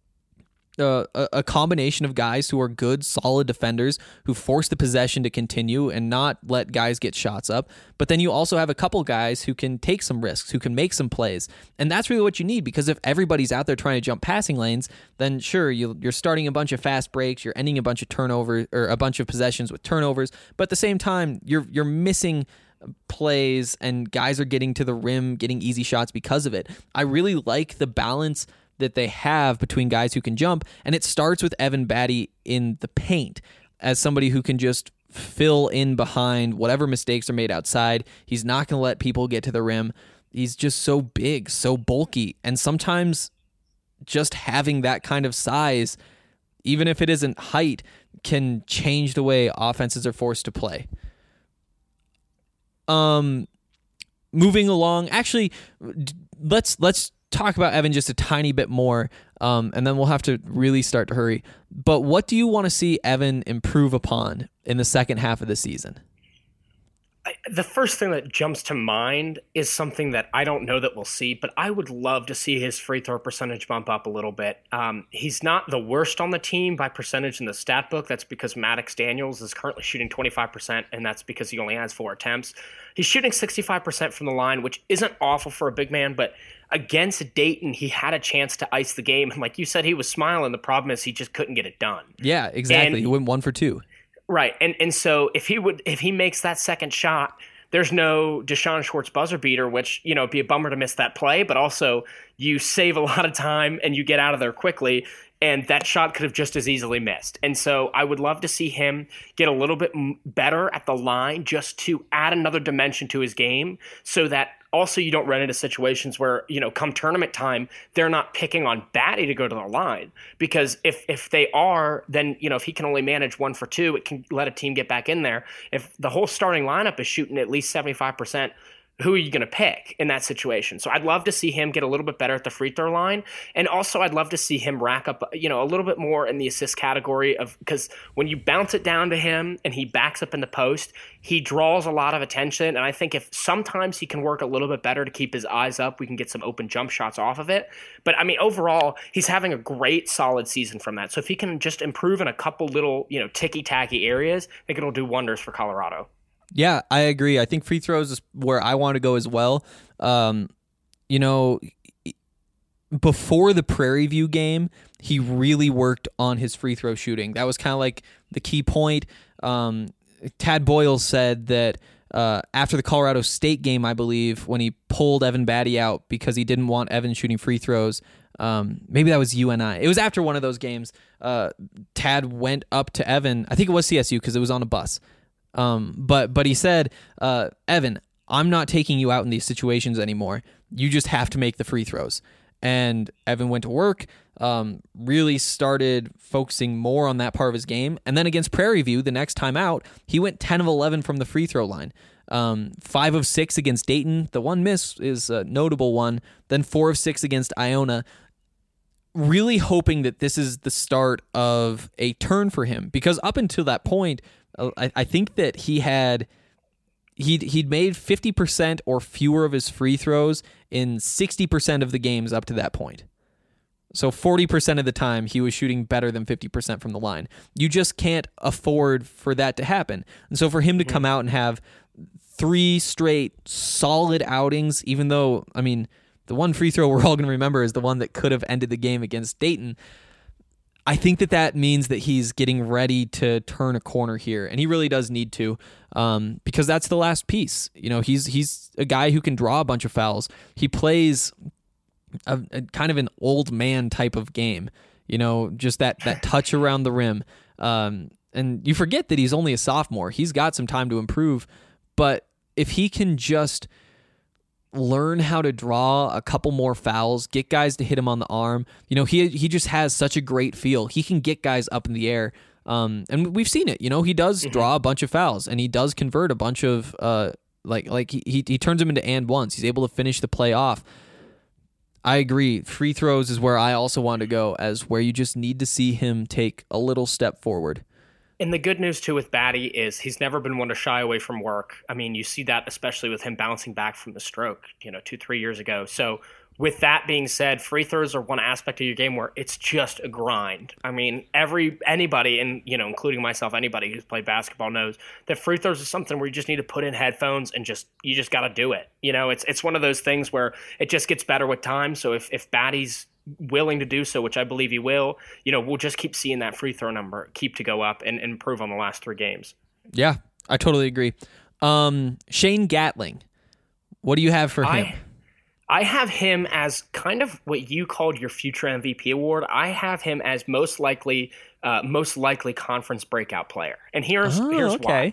Uh, a, a combination of guys who are good, solid defenders who force the possession to continue and not let guys get shots up. But then you also have a couple guys who can take some risks, who can make some plays. And that's really what you need, because if everybody's out there trying to jump passing lanes, then sure, you, you're starting a bunch of fast breaks, you're ending a bunch of turnovers or a bunch of possessions with turnovers. But at the same time, you're you're missing plays and guys are getting to the rim, getting easy shots because of it. I really like the balance that they have between guys who can jump, and it starts with Evan Batty in the paint as somebody who can just fill in behind whatever mistakes are made outside. He's not going to let people get to the rim. He's just so big, so bulky. And sometimes just having that kind of size, even if it isn't height, can change the way offenses are forced to play. Um, moving along, actually, let's let's talk about Evan just a tiny bit more, um, and then we'll have to really start to hurry. But what do you want to see Evan improve upon in the second half of the season?
I, the first thing that jumps to mind is something that I don't know that we'll see, but I would love to see his free throw percentage bump up a little bit. Um, he's not the worst on the team by percentage in the stat book. That's because Maddox Daniels is currently shooting twenty-five percent, and that's because he only has four attempts. He's shooting sixty-five percent from the line, which isn't awful for a big man, but against Dayton, he had a chance to ice the game. And like you said, he was smiling. The problem is he just couldn't get it done.
Yeah, exactly.
And,
he went one for two.
Right. And and so if he would if he makes that second shot, there's no Deshaun Schwartz buzzer beater, which, you know, it'd be a bummer to miss that play, but also you save a lot of time and you get out of there quickly, and that shot could have just as easily missed. And so I would love to see him get a little bit better at the line just to add another dimension to his game, so that also you don't run into situations where, you know, come tournament time, they're not picking on Batty to go to the line. Because if if they are, then, you know, if he can only manage one for two, it can let a team get back in there. If the whole starting lineup is shooting at least seventy-five percent, who are you going to pick in that situation? So I'd love to see him get a little bit better at the free throw line. And also I'd love to see him rack up, you know, a little bit more in the assist category of, because when you bounce it down to him and he backs up in the post, he draws a lot of attention. And I think if sometimes he can work a little bit better to keep his eyes up, we can get some open jump shots off of it. But I mean, overall, he's having a great solid season from that. So if he can just improve in a couple little, you know, ticky-tacky areas, I think it'll do wonders for Colorado.
Yeah, I agree. I think free throws is where I want to go as well. Um, you know, before the Prairie View game, he really worked on his free throw shooting. That was kind of like the key point. Um, Tad Boyle said that uh, after the Colorado State game, I believe, when he pulled Evan Batty out because he didn't want Evan shooting free throws, um, maybe that was U N I. It was after one of those games. Uh, Tad went up to Evan. I think it was C S U because it was on a bus. Um, but but he said, uh, Evan, I'm not taking you out in these situations anymore. You just have to make the free throws. And Evan went to work, um, really started focusing more on that part of his game. And then against Prairie View, the next time out, he went ten of eleven from the free throw line. Um, five of six against Dayton. The one miss is a notable one. Then four of six against Iona. Really hoping that this is the start of a turn for him. Because up until that point, I, I think that he had he'd he'd made fifty percent or fewer of his free throws in sixty percent of the games up to that point. So forty percent of the time he was shooting better than fifty percent from the line. You just can't afford for that to happen. And so for him to come out and have three straight solid outings, even though, I mean, the one free throw we're all going to remember is the one that could have ended the game against Dayton. I think that that means that he's getting ready to turn a corner here, and he really does need to, um, because that's the last piece. You know, he's he's a guy who can draw a bunch of fouls. He plays a, a kind of an old man type of game. You know, just that that touch around the rim, um, and you forget that he's only a sophomore. He's got some time to improve, but if he can just learn how to draw a couple more fouls, get guys to hit him on the arm. You know, he he just has such a great feel. He can get guys up in the air. Um, and we've seen it. You know, he does mm-hmm. draw a bunch of fouls, and he does convert a bunch of uh, like like he, he he turns them into and ones. He's able to finish the play off. I agree. Free throws is where I also want to go, as where you just need to see him take a little step forward.
And the good news, too, with Batty is he's never been one to shy away from work. I mean, you see that especially with him bouncing back from the stroke, you know, two, three years ago. So with that being said, free throws are one aspect of your game where it's just a grind. I mean, every anybody, and, you know, including myself, anybody who's played basketball knows that free throws is something where you just need to put in headphones and just you just got to do it. You know, it's it's one of those things where it just gets better with time. So if, if Batty's willing to do so, which I believe he will, you know, we'll just keep seeing that free throw number keep to go up and, and improve on the last three games.
Yeah, I totally agree. Um, Shane Gatling, what do you have for him?
I, I have him as kind of what you called your future M V P award. I have him as most likely, uh, most likely conference breakout player. And here's
Oh,
here's
okay.
why.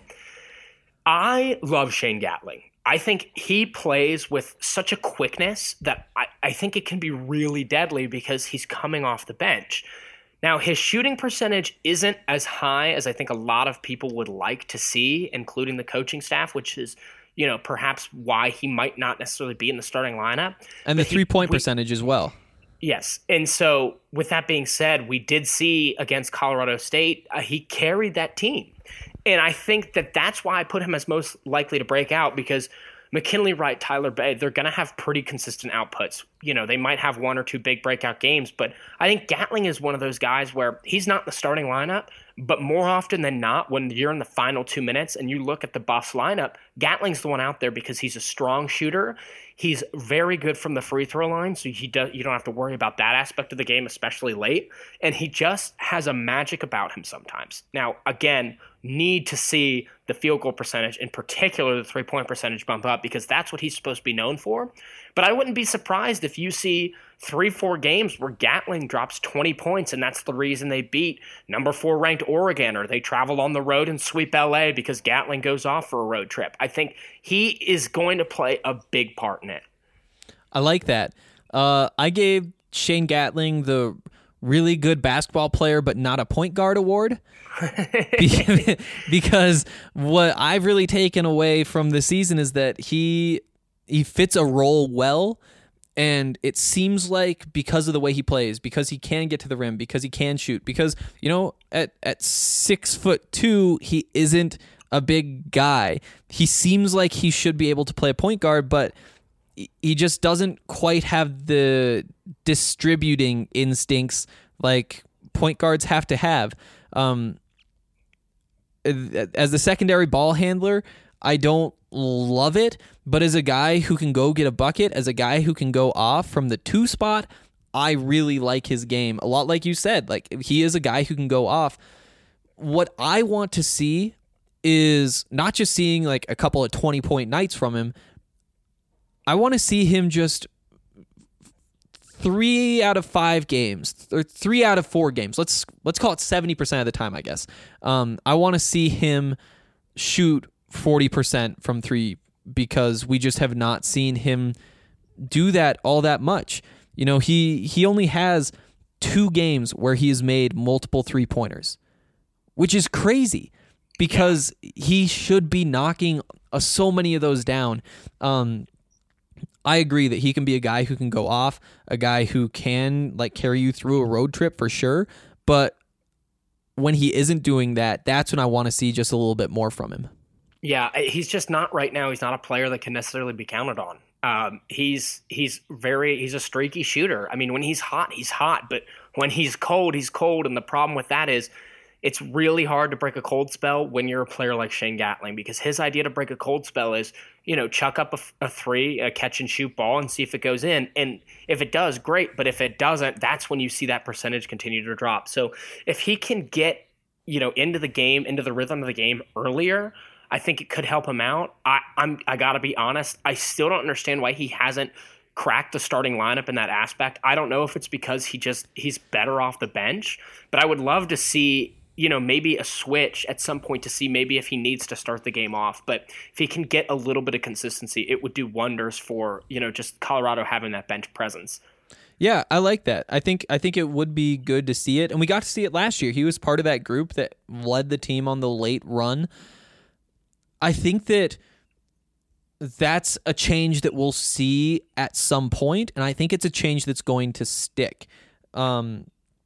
I love Shane Gatling. I think he plays with such a quickness that I, I think it can be really deadly because he's coming off the bench. Now, his shooting percentage isn't as high as I think a lot of people would like to see, including the coaching staff, which is, you know, perhaps why he might not necessarily be in the starting lineup.
And the
But he-
three-point
we-
percentage as well.
Yes. And so with that being said, we did see against Colorado State, uh, he carried that team. And I think that that's why I put him as most likely to break out, because McKinley Wright, Tyler Bay, they're going to have pretty consistent outputs. You know, they might have one or two big breakout games, but I think Gatling is one of those guys where he's not in the starting lineup, but more often than not, when you're in the final two minutes and you look at the Buffs lineup, Gatling's the one out there because he's a strong shooter. He's very good from the free throw line, so he does, you don't have to worry about that aspect of the game, especially late. And he just has a magic about him sometimes. Now, again, need to see the field goal percentage, in particular the three-point percentage, bump up, because that's what he's supposed to be known for. But I wouldn't be surprised if you see three, four games where Gatling drops twenty points, and that's the reason they beat number four ranked Oregon, or they travel on the road and sweep L A because Gatling goes off for a road trip. I think he is going to play a big part in it.
I like that. Uh, I gave Shane Gatling the really good basketball player but not a point guard award. Be- because what I've really taken away from the season is that he he fits a role well, and it seems like because of the way he plays, because he can get to the rim, because he can shoot, because, you know, at at six foot two, he isn't a big guy. He seems like he should be able to play a point guard, but he just doesn't quite have the distributing instincts like point guards have to have. Um, as the secondary ball handler, I don't love it, but as a guy who can go get a bucket, as a guy who can go off from the two spot, I really like his game. A lot like you said, like he is a guy who can go off. What I want to see is not just seeing like a couple of twenty-point nights from him. I want to see him just three out of five games, or three out of four games. Let's let's call it seventy percent of the time, I guess. Um, I want to see him shoot forty percent from three, because we just have not seen him do that all that much. You know, he he only has two games where he has made multiple three-pointers, which is crazy because he should be knocking uh, so many of those down. Um, I agree that he can be a guy who can go off, a guy who can like carry you through a road trip for sure. But when he isn't doing that, that's when I want to see just a little bit more from him.
Yeah, he's just not right now. He's not a player that can necessarily be counted on. Um, he's he's very he's a streaky shooter. I mean, when he's hot, he's hot, but when he's cold, he's cold. And the problem with that is, it's really hard to break a cold spell when you're a player like Shane Gatling, because his idea to break a cold spell is, you know, chuck up a, a three, a catch and shoot ball, and see if it goes in. And if it does, great. But if it doesn't, that's when you see that percentage continue to drop. So if he can get, you know, into the game, into the rhythm of the game earlier, I think it could help him out. I, I'm I gotta be honest, I still don't understand why he hasn't cracked the starting lineup in that aspect. I don't know if it's because he just he's better off the bench, but I would love to see, you know, maybe a switch at some point to see maybe if he needs to start the game off. But if he can get a little bit of consistency, it would do wonders for, you know, just Colorado having that bench presence.
Yeah, I like that. I think I think it would be good to see it, and we got to see it last year. He was part of that group that led the team on the late run. I think that that's a change that we'll see at some point, and I think it's a change that's going to stick. Um,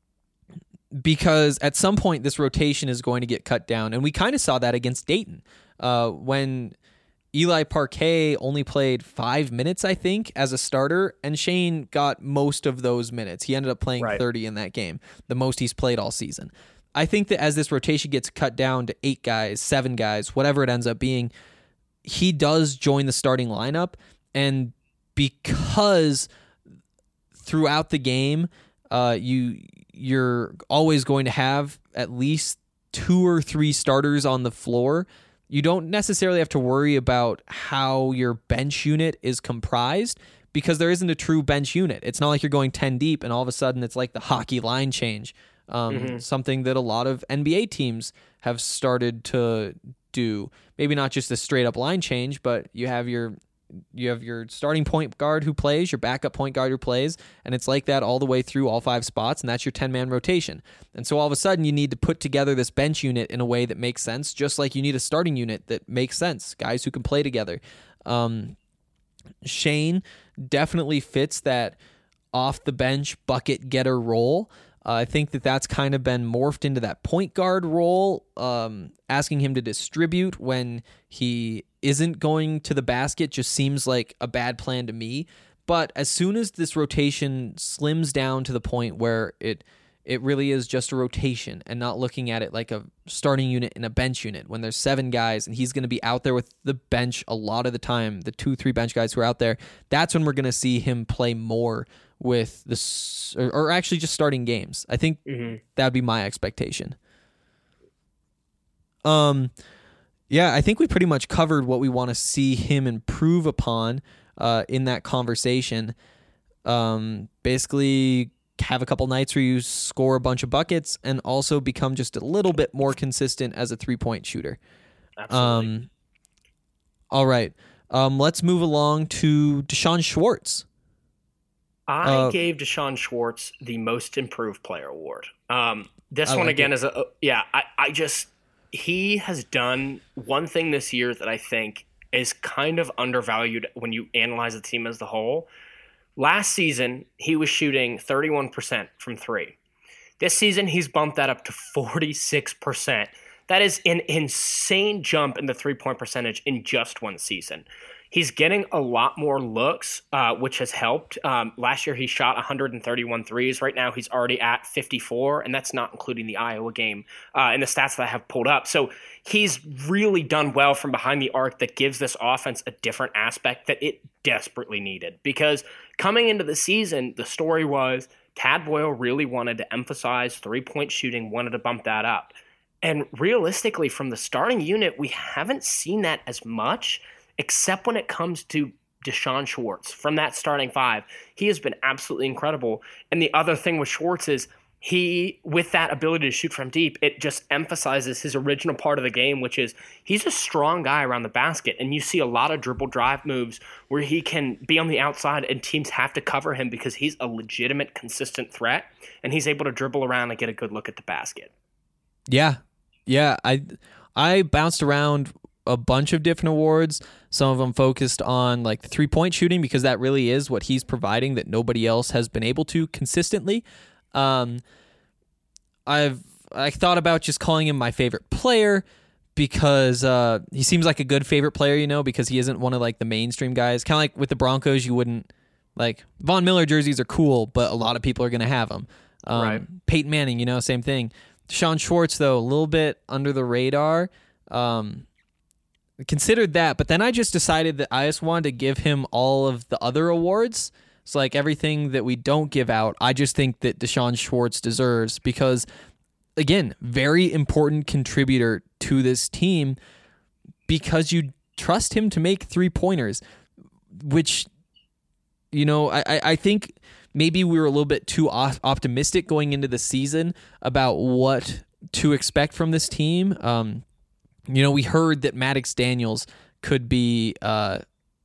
because at some point this rotation is going to get cut down, and we kind of saw that against Dayton uh, when Eli Parquet only played five minutes, I think, as a starter, and Shane got most of those minutes. He ended up playing
Right.
thirty in that game, the most he's played all season. I think that as this rotation gets cut down to eight guys, seven guys, whatever it ends up being, he does join the starting lineup, and because throughout the game, uh, you you're always going to have at least two or three starters on the floor. You don't necessarily have to worry about how your bench unit is comprised, because there isn't a true bench unit. It's not like you're going ten deep and all of a sudden it's like the hockey line change. Um, mm-hmm. Something that a lot of N B A teams have started to do. Maybe not just a straight up line change, but you have your you have your starting point guard who plays, your backup point guard who plays, and it's like that all the way through all five spots, and that's your ten-man rotation. And so all of a sudden you need to put together this bench unit in a way that makes sense, just like you need a starting unit that makes sense, guys who can play together. Um, Shane definitely fits that off-the-bench bucket getter role. Uh, I think that that's kind of been morphed into that point guard role, um, asking him to distribute when he isn't going to the basket just seems like a bad plan to me. But as soon as this rotation slims down to the point where it it really is just a rotation and not looking at it like a starting unit and a bench unit, when there's seven guys and he's going to be out there with the bench a lot of the time, the two, three bench guys who are out there, that's when we're going to see him play more with this, or, or actually just starting games. I think mm-hmm. that would be my expectation. Um, yeah, I think we pretty much covered what we want to see him improve upon uh, in that conversation. Um, basically, have a couple nights where you score a bunch of buckets and also become just a little bit more consistent as a three-point shooter.
Absolutely.
Um, all right. Um, let's move along to Deshaun Schwartz.
I
uh,
gave Deshaun Schwartz the Most Improved Player award. Um, this
I
one
like
again
it.
is a yeah. I, I just he has done one thing this year that I think is kind of undervalued when you analyze the team as the whole. Last season he was shooting thirty-one percent from three. This season he's bumped that up to forty-six percent. That is an insane jump in the three-point percentage in just one season. He's getting a lot more looks, uh, which has helped. Um, last year, he shot one hundred thirty-one threes. Right now, he's already at fifty-four, and that's not including the Iowa game uh, and the stats that I have pulled up. So he's really done well from behind the arc that gives this offense a different aspect that it desperately needed. Because coming into the season, the story was Tad Boyle really wanted to emphasize three-point shooting, wanted to bump that up. And realistically, from the starting unit, we haven't seen that as much, except when it comes to Deshaun Schwartz. From that starting five, he has been absolutely incredible. And the other thing with Schwartz is he, with that ability to shoot from deep, it just emphasizes his original part of the game, which is he's a strong guy around the basket. And you see a lot of dribble drive moves where he can be on the outside and teams have to cover him because he's a legitimate, consistent threat. And he's able to dribble around and get a good look at the basket.
Yeah. Yeah. I, I bounced around a bunch of different awards. Some of them focused on like the three-point shooting because that really is what he's providing that nobody else has been able to consistently. Um, I've I thought about just calling him my favorite player because uh, he seems like a good favorite player, you know, because he isn't one of like the mainstream guys. Kind of like with the Broncos, you wouldn't like Von Miller jerseys are cool, but a lot of people are going to have them. Um,
Right.
Peyton Manning, you know, same thing. Deshaun Schwartz, though, a little bit under the radar. Um, considered that, but then I just decided that I just wanted to give him all of the other awards. It's like everything that we don't give out, I just think that Deshaun Schwartz deserves because, again, very important contributor to this team because you trust him to make three-pointers, which, you know, I, I think maybe we were a little bit too optimistic going into the season about what to expect from this team. Um, You know, we heard that Maddox Daniels could be uh,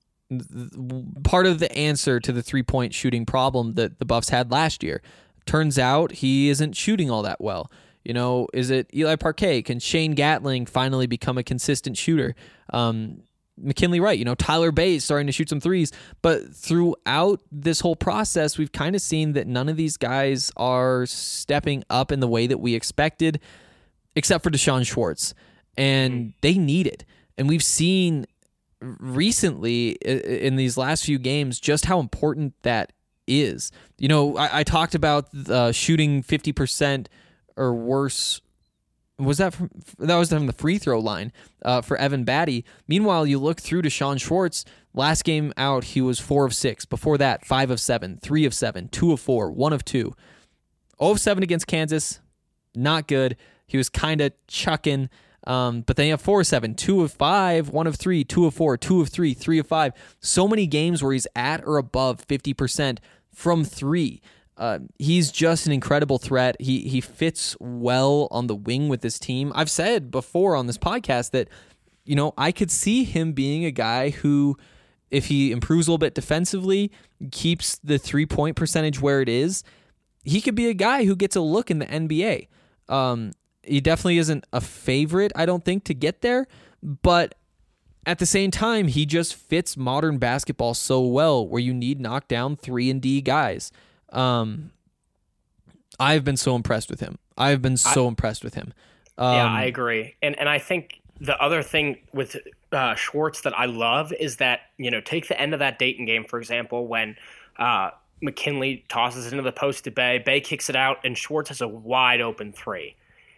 part of the answer to the three-point shooting problem that the Buffs had last year. Turns out he isn't shooting all that well. You know, is it Eli Parquet? Can Shane Gatling finally become a consistent shooter? Um, McKinley Wright, you know, Tyler Bay is starting to shoot some threes. But throughout this whole process, we've kind of seen that none of these guys are stepping up in the way that we expected, except for Deshaun Schwartz. And they need it. And we've seen recently in these last few games just how important that is. You know, I, I talked about uh, shooting fifty percent or worse. Was that from, that was from the free throw line uh, for Evan Batty. Meanwhile, you look through Deshaun Schwartz. Last game out, he was four of six. Before that, five of seven, three of seven, two of four, one of two. zero of seven against Kansas. Not good. He was kind of chucking Um, but then you have four of seven, two of five, one of three, two of four, two of three, three of five. So many games where he's at or above fifty percent from three. Uh, he's just an incredible threat. He he fits well on the wing with this team. I've said before on this podcast that, you know, I could see him being a guy who, if he improves a little bit defensively, keeps the three-point percentage where it is, he could be a guy who gets a look in the N B A. Um, he definitely isn't a favorite, I don't think, to get there, but at the same time, he just fits modern basketball so well where you need knockdown three and D guys. Um, I've been so impressed with him. I've been so I, impressed with him. Um,
yeah, I agree. And and I think the other thing with uh, Schwartz that I love is that, you know, take the end of that Dayton game, for example, when uh, McKinley tosses it into the post to Bey, Bey kicks it out, and Schwartz has a wide open three.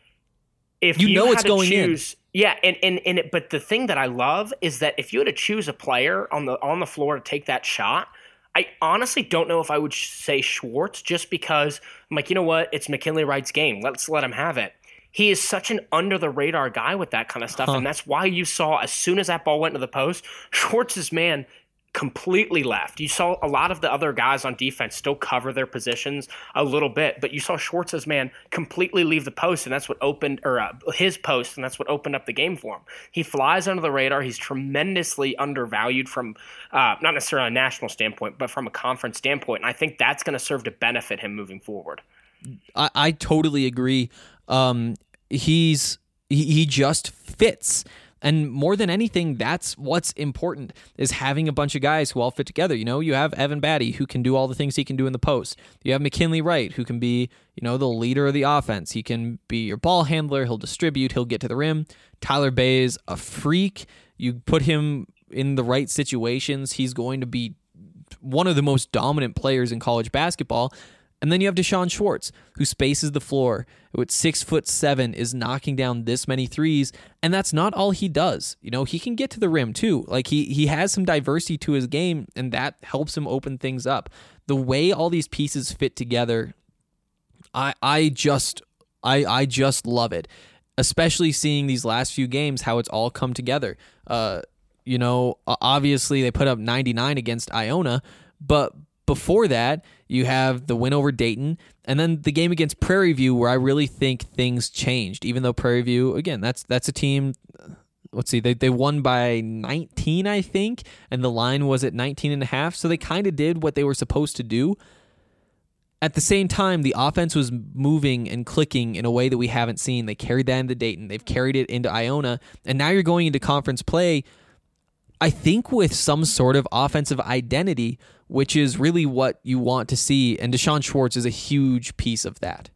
If
you,
you
know it's going
choose,
in.
Yeah, and, and, and it, but the thing that I love is that if you had to choose a player on the on the floor to take that shot, I honestly don't know if I would say Schwartz, just because I'm like, you know what? It's McKinley Wright's game. Let's let him have it. He is such an under-the-radar guy with that kind of stuff, huh. and that's why you saw as soon as that ball went to the post, Schwartz's man completely left. You saw a lot of the other guys on defense still cover their positions a little bit, but you saw Schwartz's man completely leave the post, and that's what opened, or uh, his post, and that's what opened up the game for him. He flies under the radar. He's tremendously undervalued from, uh, not necessarily a national standpoint, but from a conference standpoint, and I think that's going to serve to benefit him moving forward.
I, I totally agree. Um, he's he, he just fits. And more than anything, that's what's important, is having a bunch of guys who all fit together. You know, you have Evan Batty, who can do all the things he can do in the post. You have McKinley Wright, who can be, you know, the leader of the offense. He can be your ball handler. He'll distribute. He'll get to the rim. Tyler Bey is a freak. You put him in the right situations, he's going to be one of the most dominant players in college basketball. And then you have Deshaun Schwartz, who spaces the floor, who at six foot seven is knocking down this many threes, and that's not all he does. You know, he can get to the rim too. Like he he has some diversity to his game, and that helps him open things up. The way all these pieces fit together, I I just I I just love it. Especially seeing these last few games, how it's all come together. Uh, you know, obviously they put up ninety-nine against Iona, but before that, you have the win over Dayton, and then the game against Prairie View, where I really think things changed. Even though Prairie View, again, that's that's a team. Let's see, they they won by nineteen, I think, and the line was at nineteen and a half. So they kind of did what they were supposed to do. At the same time, the offense was moving and clicking in a way that we haven't seen. They carried that into Dayton. They've carried it into Iona, and now you're going into conference play, I think, with some sort of offensive identity, which is really what you want to see, and Deshaun Schwartz is a huge piece of that.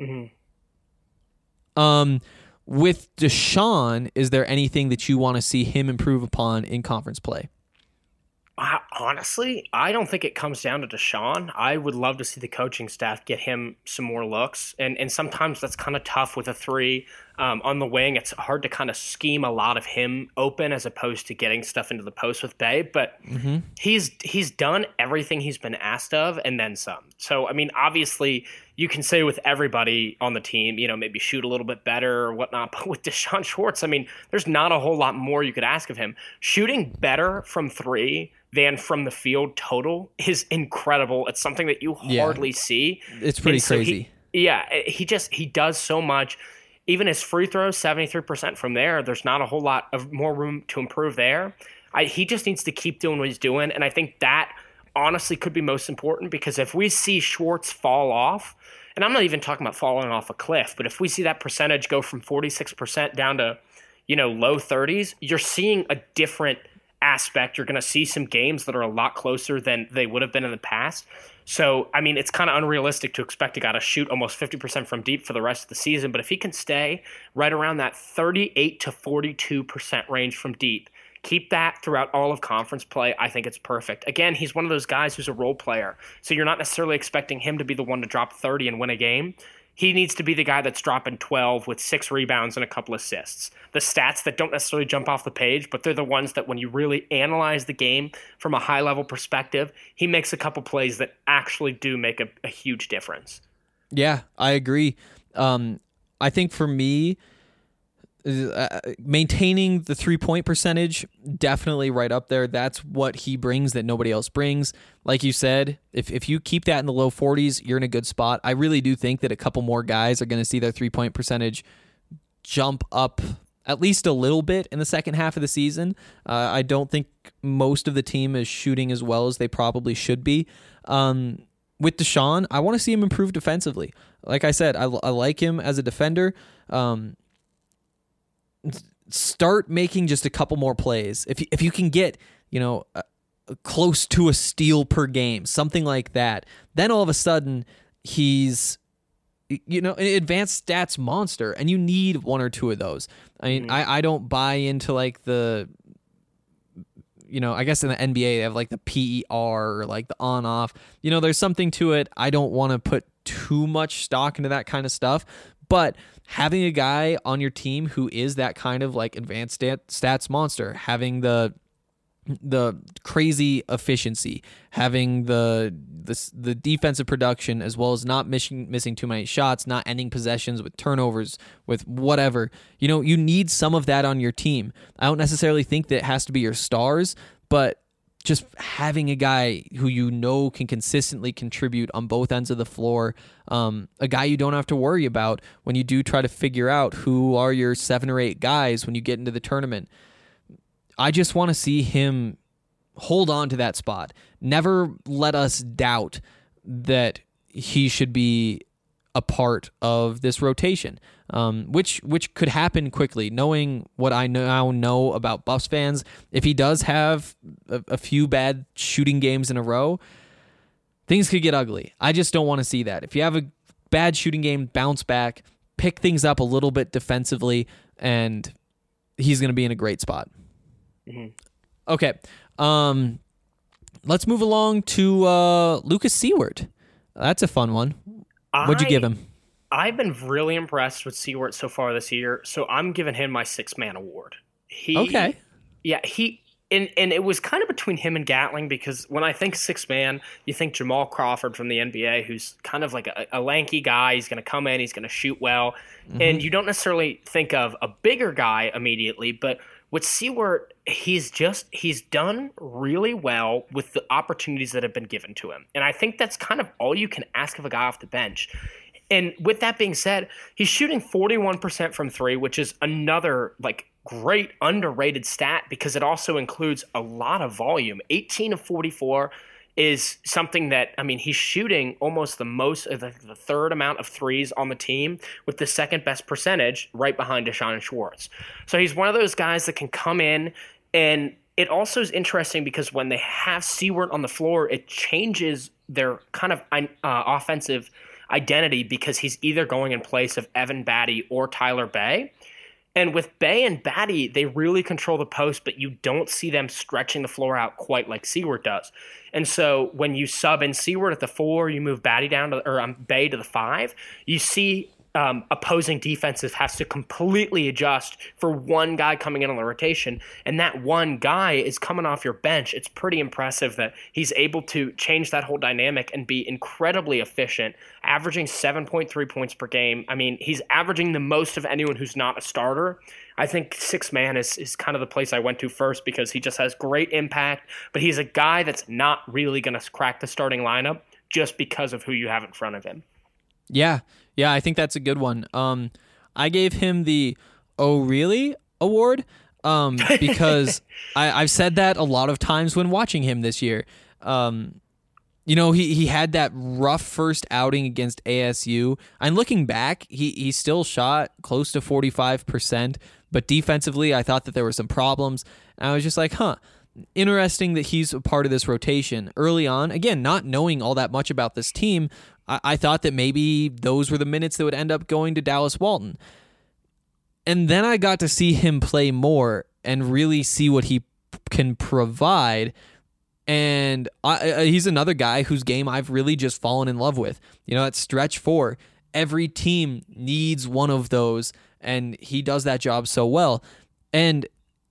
Mm-hmm. Um, with Deshaun, is there anything that you want to see him improve upon in conference play?
Uh, honestly, I don't think it comes down to Deshaun. I would love to see the coaching staff get him some more looks, and and sometimes that's kind of tough with a three um, on the wing. It's hard to kind of scheme a lot of him open as opposed to getting stuff into the post with Bey. But mm-hmm. he's he's done everything he's been asked of, and then some. So I mean, obviously, you can say with everybody on the team, you know, maybe shoot a little bit better or whatnot. But with Deshaun Schwartz, I mean, there's not a whole lot more you could ask of him. Shooting better from three than from the field total is incredible. It's something that you hardly yeah. see.
It's pretty so
crazy. He, yeah, he just he does so much. Even his free throws, seventy-three percent from there. There's not a whole lot of more room to improve there. I, he just needs to keep doing what he's doing, and I think that honestly could be most important, because if we see Schwartz fall off, and I'm not even talking about falling off a cliff, but if we see that percentage go from forty-six percent down to, you know, low thirties, you're seeing a different aspect. You're going to see some games that are a lot closer than they would have been in the past. So, I mean, it's kind of unrealistic to expect a guy to shoot almost fifty percent from deep for the rest of the season, but if he can stay right around that thirty-eight to forty-two percent range from deep, keep that throughout all of conference play, I think it's perfect. Again, he's one of those guys who's a role player, so you're not necessarily expecting him to be the one to drop thirty and win a game. He needs to be the guy that's dropping twelve with six rebounds and a couple assists. The stats that don't necessarily jump off the page, but they're the ones that when you really analyze the game from a high-level perspective, he makes a couple plays that actually do make a, a huge difference.
Yeah, I agree. Um, I think for me, Uh, maintaining the three-point percentage, definitely right up there. That's what he brings that nobody else brings. Like you said, if if you keep that in the low forties, you're in a good spot. I really do think that a couple more guys are going to see their three-point percentage jump up at least a little bit in the second half of the season. Uh, I don't think most of the team is shooting as well as they probably should be. Um, with Deshaun, I want to see him improve defensively. Like I said, I, I like him as a defender. Um, Start making just a couple more plays. If you, if you can get, you know, uh, close to a steal per game, something like that, then all of a sudden he's, you know, an advanced stats monster, and you need one or two of those. I mean, mm-hmm. I, I don't buy into like the, you know, I guess in the N B A they have like the P E R or like the on off. You know, there's something to it. I don't want to put too much stock into that kind of stuff. But having a guy on your team who is that kind of like advanced stat, stats monster, having the the crazy efficiency, having the the the defensive production, as well as not missing missing too many shots, not ending possessions with turnovers, with whatever, you know, you need some of that on your team. I don't necessarily think that it has to be your stars, but just having a guy who you know can consistently contribute on both ends of the floor, um, a guy you don't have to worry about when you do try to figure out who are your seven or eight guys when you get into the tournament. I just want to see him hold on to that spot. Never let us doubt that he should be a part of this rotation, um, which which could happen quickly. Knowing what I now know about Buffs fans, if he does have a, a few bad shooting games in a row, things could get ugly. I just don't want to see that. If you have a bad shooting game, bounce back, pick things up a little bit defensively, and he's going to be in a great spot. Mm-hmm. Okay, um, let's move along to uh, Lucas Siewert. That's a fun one. What'd you give him?
I, I've been really impressed with Siewert so far this year, so I'm giving him my six-man award. He,
okay.
Yeah, he and and it was kind of between him and Gatling, because when I think six-man, you think Jamal Crawford from the N B A, who's kind of like a, a lanky guy. He's going to come in, he's going to shoot well, mm-hmm. and you don't necessarily think of a bigger guy immediately, but with Siewert, he's just he's done really well with the opportunities that have been given to him. And I think that's kind of all you can ask of a guy off the bench. And with that being said, he's shooting forty-one percent from three, which is another like great underrated stat because it also includes a lot of volume. eighteen of forty-four is something that, I mean, he's shooting almost the most, the, the third amount of threes on the team with the second best percentage right behind Deshaun Schwartz. So he's one of those guys that can come in, and it also is interesting because when they have Siewert on the floor, it changes their kind of uh, offensive identity because he's either going in place of Evan Batty or Tyler Bey. And with Bey and Batty, they really control the post, but you don't see them stretching the floor out quite like Siewert does. And so when you sub in Siewert at the four, you move Batty down to, or um, Bey to the five, you see um, opposing defenses has to completely adjust for one guy coming in on the rotation. And that one guy is coming off your bench. It's pretty impressive that he's able to change that whole dynamic and be incredibly efficient, averaging seven point three points per game. I mean, he's averaging the most of anyone who's not a starter. I think six man is, is kind of the place I went to first because he just has great impact, but he's a guy that's not really going to crack the starting lineup just because of who you have in front of him.
Yeah, yeah, I think that's a good one. Um, I gave him the "Oh Really" award um, because I, I've said that a lot of times when watching him this year. Um, you know, he, he had that rough first outing against A S U. And looking back, he, he still shot close to forty-five percent, but defensively, I thought that there were some problems. And I was just like, huh. Interesting that he's a part of this rotation early on. Again, not knowing all that much about this team, I, I thought that maybe those were the minutes that would end up going to Dallas Walton. And then I got to see him play more and really see what he p- can provide. And I, I, he's another guy whose game I've really just fallen in love with. You know, at stretch four, every team needs one of those, and he does that job so well. And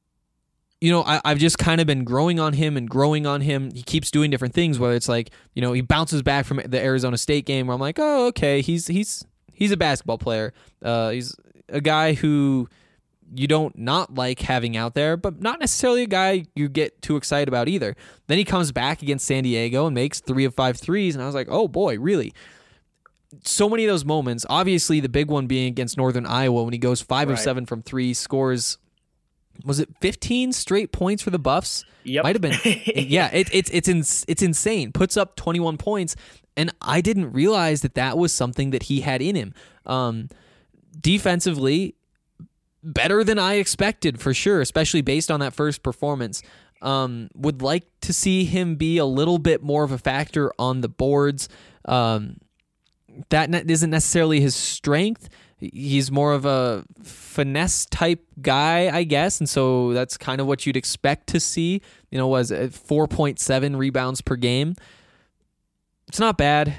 you know, I, I've just kind of been growing on him and growing on him. He keeps doing different things, whether it's like, you know, he bounces back from the Arizona State game where I'm like, oh, okay, he's he's he's a basketball player. Uh, he's a guy who you don't not like having out there, but not necessarily a guy you get too excited about either. Then he comes back against San Diego and makes three of five threes, and I was like, oh boy, really? So many of those moments, obviously the big one being against Northern Iowa when he goes five
Right.
of seven from three, scores, was it fifteen straight points for the Buffs?
Yep.
Might have been. Yeah, it, it's it's ins- it's insane. Puts up twenty-one points, and I didn't realize that that was something that he had in him. Um, defensively, better than I expected for sure, especially based on that first performance. Um, would like to see him be a little bit more of a factor on the boards. Um, that ne- isn't necessarily his strength. He's more of a finesse type guy, I guess, and so that's kind of what you'd expect to see. You know, was four point seven rebounds per game. It's not bad.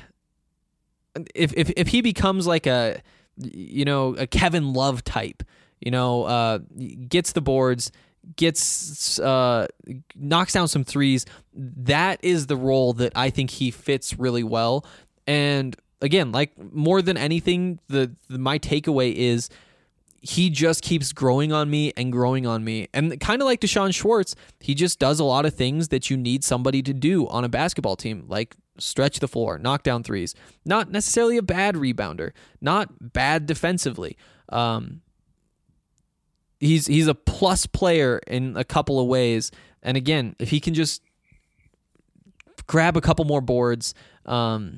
If if if he becomes like a, you know, a Kevin Love type, you know, uh, gets the boards, gets uh, knocks down some threes, that is the role that I think he fits really well. And again, like more than anything, the, the my takeaway is he just keeps growing on me and growing on me. And kind of like Deshaun Schwartz, he just does a lot of things that you need somebody to do on a basketball team, like stretch the floor, knock down threes. Not necessarily a bad rebounder, not bad defensively. Um, he's he's a plus player in a couple of ways. And again, if he can just grab a couple more boards, um,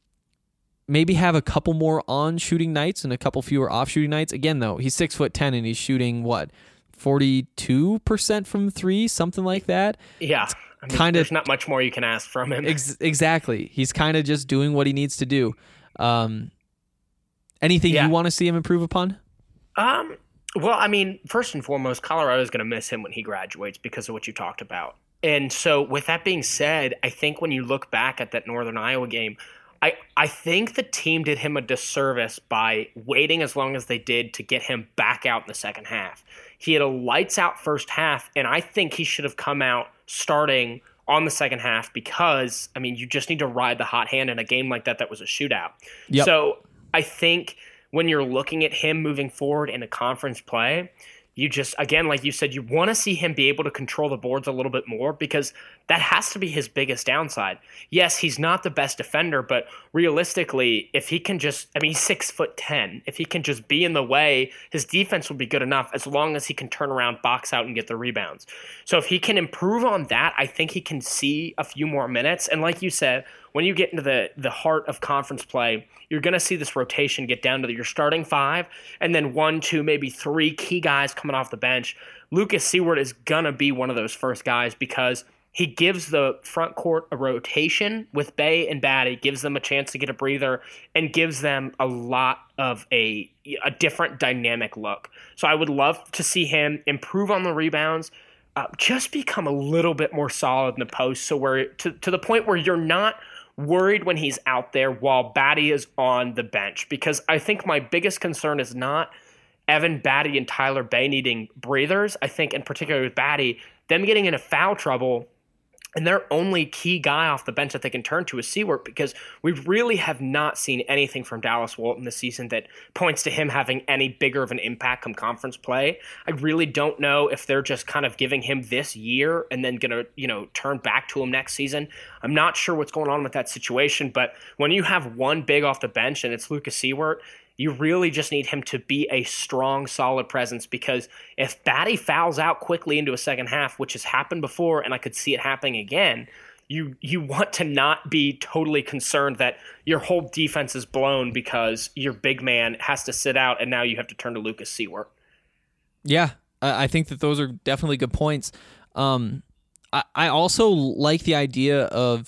maybe have a couple more on shooting nights and a couple fewer off shooting nights. Again, though, he's six foot ten and he's shooting what, forty-two percent from three, something like that.
Yeah, I mean,
kind of
there's not much more you can ask from him.
Ex- exactly. He's kind of just doing what he needs to do. Um, anything
Yeah.
you want to see him improve upon?
Um, well, I mean, first and foremost, Colorado's going to miss him when he graduates because of what you talked about. And so with that being said, I think when you look back at that Northern Iowa game, I, I think the team did him a disservice by waiting as long as they did to get him back out in the second half. He had a lights out first half, and I think he should have come out starting on the second half because, I mean, you just need to ride the hot hand in a game like that that was a shootout.
Yep.
So I think when you're looking at him moving forward in a conference play, you just, again, like you said, you want to see him be able to control the boards a little bit more because that has to be his biggest downside. Yes, he's not the best defender, but realistically, if he can just, I mean, he's six foot ten. If he can just be in the way, his defense will be good enough as long as he can turn around, box out, and get the rebounds. So if he can improve on that, I think he can see a few more minutes. And like you said, when you get into the, the heart of conference play, you're going to see this rotation get down to your starting five and then one, two, maybe three key guys coming off the bench. Lucas Seward is going to be one of those first guys because he gives the front court a rotation with Bay and Batty, gives them a chance to get a breather, and gives them a lot of a, a different dynamic look. So I would love to see him improve on the rebounds, uh, just become a little bit more solid in the post so where to, to the point where you're not – worried when he's out there while Batty is on the bench, because I think my biggest concern is not Evan Batty and Tyler Bay needing breathers. I think in particular with Batty, them getting into foul trouble and their only key guy off the bench that they can turn to is Seward, because we really have not seen anything from Dallas Walton this season that points to him having any bigger of an impact come conference play. I really don't know if they're just kind of giving him this year and then going to, you know, turn back to him next season. I'm not sure what's going on with that situation, but when you have one big off the bench and it's Lucas Seward, you really just need him to be a strong, solid presence, because if Batty fouls out quickly into a second half, which has happened before, and I could see it happening again, you you want to not be totally concerned that your whole defense is blown because your big man has to sit out and now you have to turn to Lucas Seward.
Yeah, I think that those are definitely good points. Um, I, I also like the idea of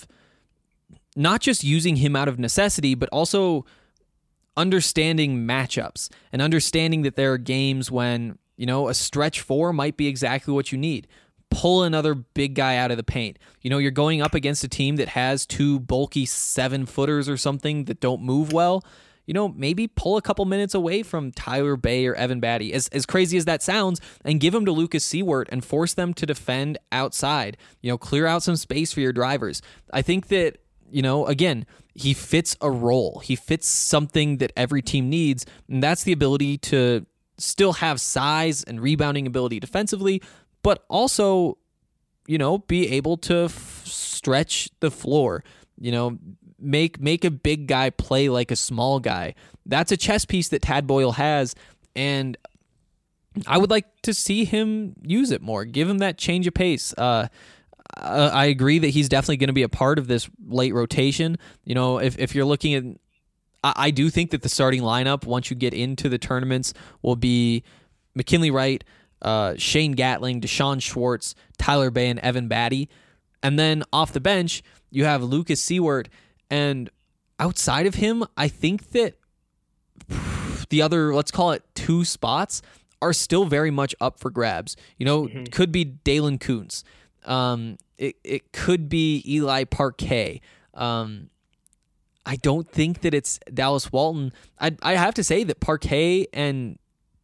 not just using him out of necessity, but also understanding matchups and understanding that there are games when, you know, a stretch four might be exactly what you need. Pull another big guy out of the paint. You know, you're going up against a team that has two bulky seven footers or something that don't move well. You know, maybe pull a couple minutes away from Tyler Bay or Evan Batty, as as crazy as that sounds, and give them to Lucas Seward and force them to defend outside. You know, clear out some space for your drivers. I think that, you know, again, he fits a role. He fits something that every team needs, and that's the ability to still have size and rebounding ability defensively, but also, you know, be able to f- stretch the floor, you know, make make a big guy play like a small guy. That's a chess piece that Tad Boyle has, and I would like to see him use it more, give him that change of pace. Uh, I agree that he's definitely going to be a part of this late rotation. You know, if, if you're looking at, I, I do think that the starting lineup, once you get into the tournaments, will be McKinley Wright, uh, Shane Gatling, Deshaun Schwartz, Tyler Bay, and Evan Batty. And then off the bench, you have Lucas Seward. And outside of him, I think that the other, let's call it two spots, are still very much up for grabs. You know, mm-hmm. could be Dalen Kuntz. Um, it, it could be Eli Parquet. Um, I don't think that it's Dallas Walton. I I have to say that Parquet and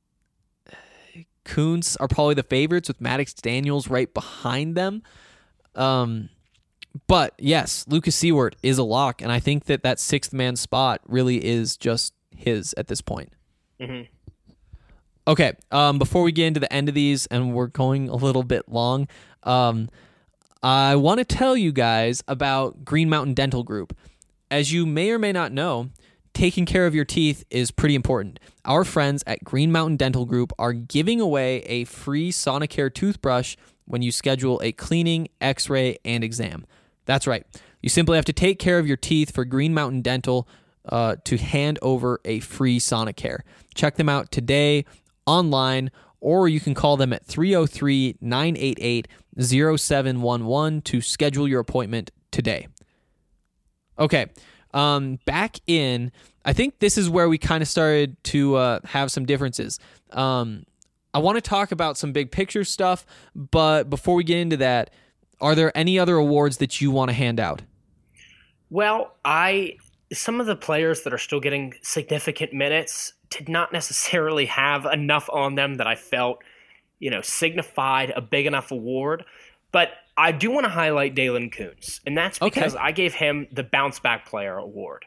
Kuntz are probably the favorites, with Maddox Daniels right behind them. Um, but yes, Lucas Seward is a lock, and I think that that sixth man spot really is just his at this point. Mm-hmm. Okay, um, before we get into the end of these, and we're going a little bit long, um, I want to tell you guys about Green Mountain Dental Group. As you may or may not know, taking care of your teeth is pretty important. Our friends at Green Mountain Dental Group are giving away a free Sonicare toothbrush when you schedule a cleaning, x-ray, and exam. That's right. You simply have to take care of your teeth for Green Mountain Dental uh, to hand over a free Sonicare. Check them out today online, or you can call them at three oh three, nine eight eight, oh seven one one to schedule your appointment today. Okay, um, back in, I think this is where we kind of started to uh, have some differences. Um, I want to talk about some big picture stuff, but before we get into that, are there any other awards that you want to hand out?
Well, I some of the players that are still getting significant minutes did not necessarily have enough on them that I felt, you know, signified a big enough award. But I do want to highlight Dalen Kuntz, and that's because okay. I gave him the Bounce Back Player Award.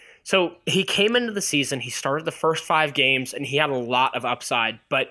So he came into the season, he started the first five games, and he had a lot of upside, but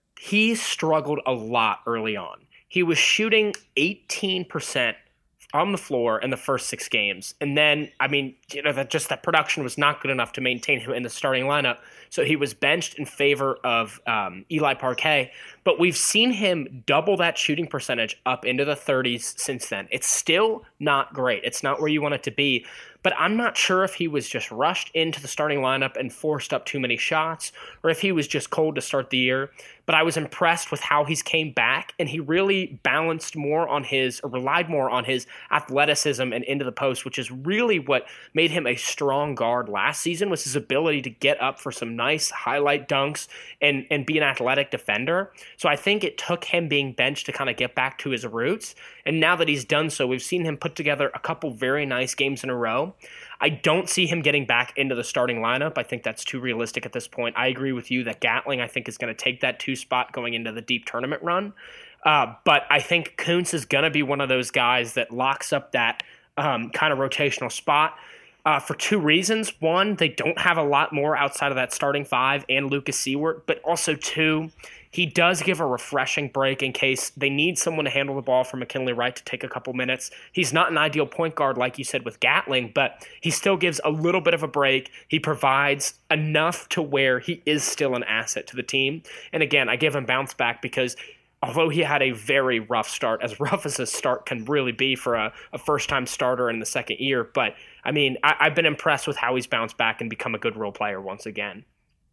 he struggled a lot early on. He was shooting eighteen percent on the floor in the first six games. And then, I mean, you know, that just that production was not good enough to maintain him in the starting lineup. So he was benched in favor of um, Eli Parquet. But we've seen him double that shooting percentage up into the thirties since then. It's still not great. It's not where you want it to be. But I'm not sure if he was just rushed into the starting lineup and forced up too many shots, or if he was just cold to start the year. But I was impressed with how he's came back, and he really balanced more on his, or relied more on his athleticism and into the post, which is really what made him a strong guard last season, was his ability to get up for some nice highlight dunks and, and be an athletic defender. So I think it took him being benched to kind of get back to his roots. And now that he's done so, we've seen him put together a couple very nice games in a row. I don't see him getting back into the starting lineup. I think that's too realistic at this point. I agree with you that Gatling, I think, is going to take that two spot going into the deep tournament run. Uh, but I think Kuntz is going to be one of those guys that locks up that um, kind of rotational spot uh, for two reasons. One, they don't have a lot more outside of that starting five and Lucas Seward. But also, two, he does give a refreshing break in case they need someone to handle the ball for McKinley Wright to take a couple minutes. He's not an ideal point guard, like you said, with Gatling, but he still gives a little bit of a break. He provides enough to where he is still an asset to the team. And again, I give him bounce back because although he had a very rough start, as rough as a start can really be for a, a first-time starter in the second year, but I mean, I, I've been impressed with how he's bounced back and become a good role player once again.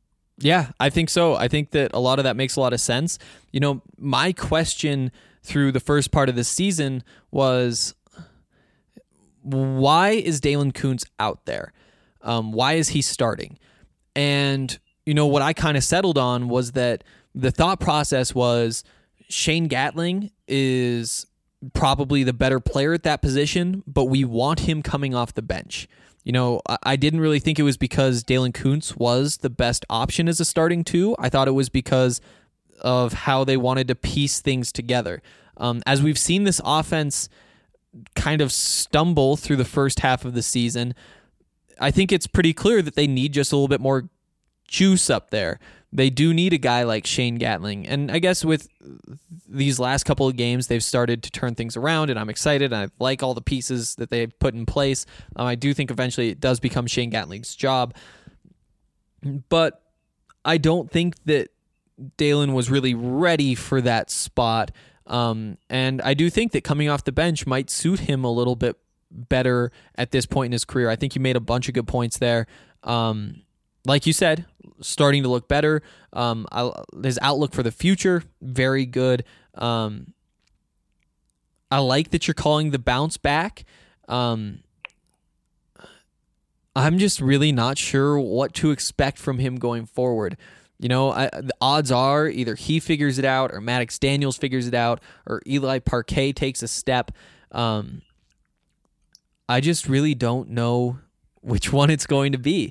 Yeah, I think so. I think that a lot of that makes a lot of sense. You know, my question through the first part of the season was, why is Dalen Kuntz out there? Um, why is he starting? And, you know, what I kind of settled on was that the thought process was Shane Gatling is probably the better player at that position, but we want him coming off the bench. You know, I didn't really think it was because Dalen Kuntz was the best option as a starting two. I thought it was because of how they wanted to piece things together. Um, as we've seen this offense kind of stumble through the first half of the season, I think it's pretty clear that they need just a little bit more juice up there. they do need a guy like Shane Gatling. And I guess with these last couple of games, they've started to turn things around, and I'm excited. I like all the pieces that they've put in place. Um, I do think eventually it does become Shane Gatling's job. But I don't think that Dalen was really ready for that spot. Um, and I do think that coming off the bench might suit him a little bit better at this point in his career. I think you made a bunch of good points there. Um, like you said, starting to look better. Um, I, his outlook for the future, very good. Um, I like that you're calling the bounce back. Um, I'm just really not sure what to expect from him going forward. You know, I, the odds are either he figures it out or Maddox Daniels figures it out or Eli Parquet takes a step. Um, I just really don't know which one it's going to be.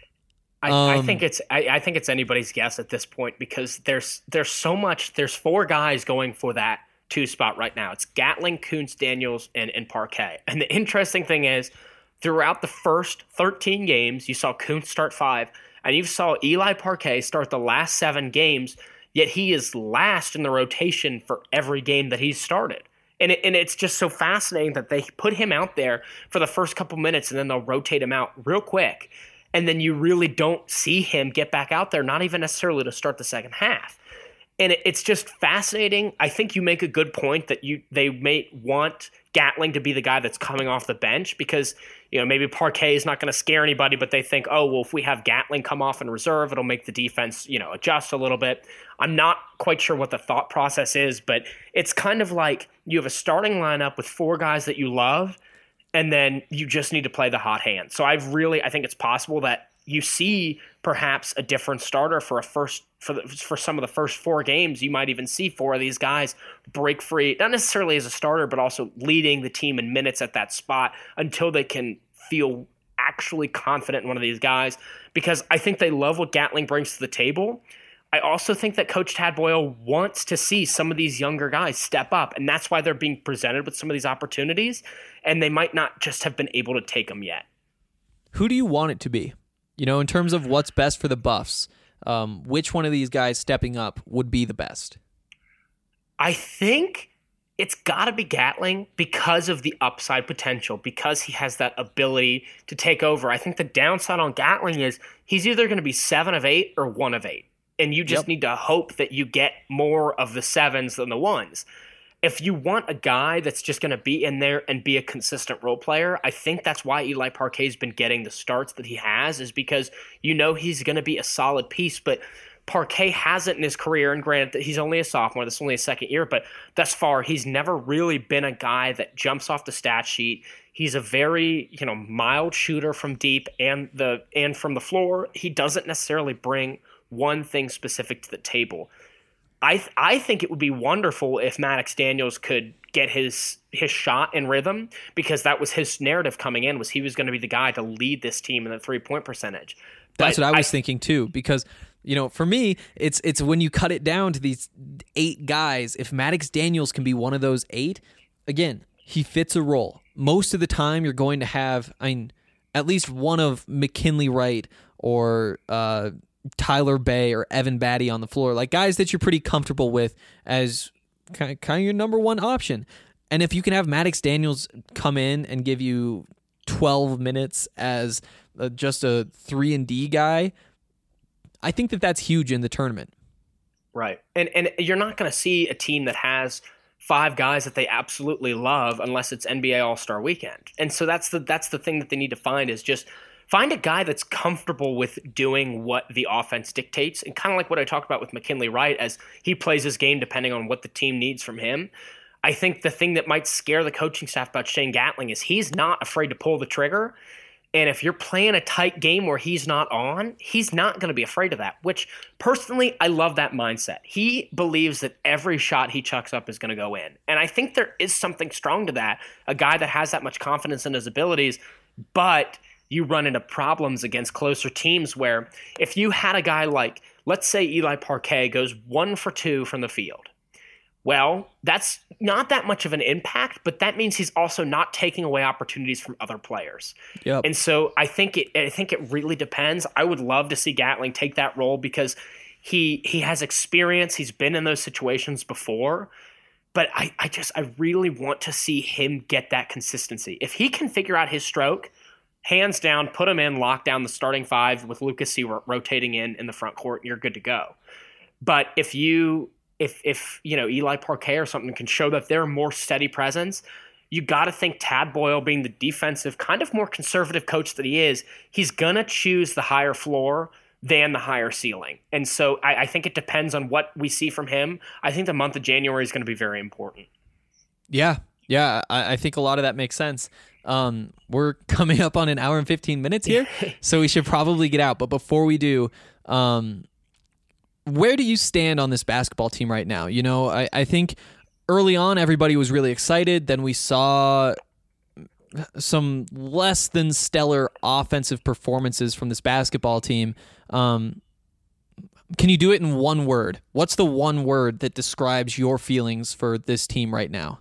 I,
um,
I think it's I, I think it's anybody's guess at this point because there's there's so much. There's four guys going for that two spot right now. It's Gatling, Kuntz, Daniels, and, and Parquet. And the interesting thing is, throughout the first thirteen games, you saw Kuntz start five, and you saw Eli Parquet start the last seven games, yet he is last in the rotation for every game that he's started. And it, and it's just so fascinating that they put him out there for the first couple minutes, and then they'll rotate him out real quick. And then you really don't see him get back out there, not even necessarily to start the second half. And it, it's just fascinating. I think you make a good point that you they may want Gatling to be the guy that's coming off the bench because, you know, maybe Parquet is not going to scare anybody, but they think, oh, well, if we have Gatling come off in reserve, it'll make the defense, you know, adjust a little bit. I'm not quite sure what the thought process is, but it's kind of like you have a starting lineup with four guys that you love, and then you just need to play the hot hand. So I've really, I think it's possible that you see perhaps a different starter for a first for the, for some of the first four games. You might even see four of these guys break free, not necessarily as a starter, but also leading the team in minutes at that spot until they can feel actually confident in one of these guys. Because I think they love what Gatling brings to the table. I also think that Coach Tad Boyle wants to see some of these younger guys step up, and that's why they're being presented with some of these opportunities, and they might not just have been able to take them yet.
Who do you want it to be? You know, in terms of what's best for the Buffs, um, which one of these guys stepping up would be the best?
I think it's got to be Gatling because of the upside potential, because he has that ability to take over. I think the downside on Gatling is he's either going to be seven of eight or one of eight. And you just yep. need to hope that you get more of the sevens than the ones. If you want a guy that's just going to be in there and be a consistent role player, I think that's why Eli Parquet's been getting the starts that he has, is because you know he's going to be a solid piece. But Parquet hasn't in his career, and granted that he's only a sophomore, this is only his second year, but thus far he's never really been a guy that jumps off the stat sheet. He's a very, you know, mild shooter from deep and the and from the floor. He doesn't necessarily bring one thing specific to the table. I th- I think it would be wonderful if Maddox Daniels could get his his shot in rhythm, because that was his narrative coming in, was he was going to be the guy to lead this team in the three-point percentage.
That's
but
what I was
I,
thinking too, because, you know, for me, it's it's when you cut it down to these eight guys, if Maddox Daniels can be one of those eight, again, he fits a role. Most of the time you're going to have, I mean, at least one of McKinley Wright or uh Tyler Bay or Evan Batty on the floor, like guys that you're pretty comfortable with as kind of, kind of your number one option. And if you can have Maddox Daniels come in and give you twelve minutes as uh, just a three and D guy, I think that that's huge in the tournament.
Right. And and you're not going to see a team that has five guys that they absolutely love unless it's N B A All-Star Weekend. And so that's the that's the thing that they need to find, is just find a guy that's comfortable with doing what the offense dictates, and kind of like what I talked about with McKinley Wright, as he plays his game depending on what the team needs from him. I think the thing that might scare the coaching staff about Shane Gatling is he's not afraid to pull the trigger, and if you're playing a tight game where he's not on, he's not going to be afraid of that, which personally, I love that mindset. He believes that every shot he chucks up is going to go in, and I think there is something strong to that, a guy that has that much confidence in his abilities, but you run into problems against closer teams where if you had a guy like, let's say Eli Parquet goes one for two from the field, well, that's not that much of an impact, but that means he's also not taking away opportunities from other players.
Yep.
And so I think it I think it really depends. I would love to see Gatling take that role because He he has experience. He's been in those situations before. But I, I just I really want to see him get that consistency. If he can figure out his stroke, hands down, put him in, lock down the starting five with Lucas Seawert rotating in in the front court, and you're good to go. But if you if if you know Eli Parquet or something can show that they're a more steady presence, you got to think Tad Boyle, being the defensive, kind of more conservative coach that he is, he's gonna choose the higher floor than the higher ceiling. And so I, I think it depends on what we see from him. I think the month of January is going to be very important.
Yeah, yeah, I, I think a lot of that makes sense. Um, we're coming up on an hour and fifteen minutes here, so we should probably get out. But before we do, um, where do you stand on this basketball team right now? You know, I, I think early on everybody was really excited. Then we saw some less than stellar offensive performances from this basketball team. Um, can you do it in one word? What's the one word that describes your feelings for this team right now?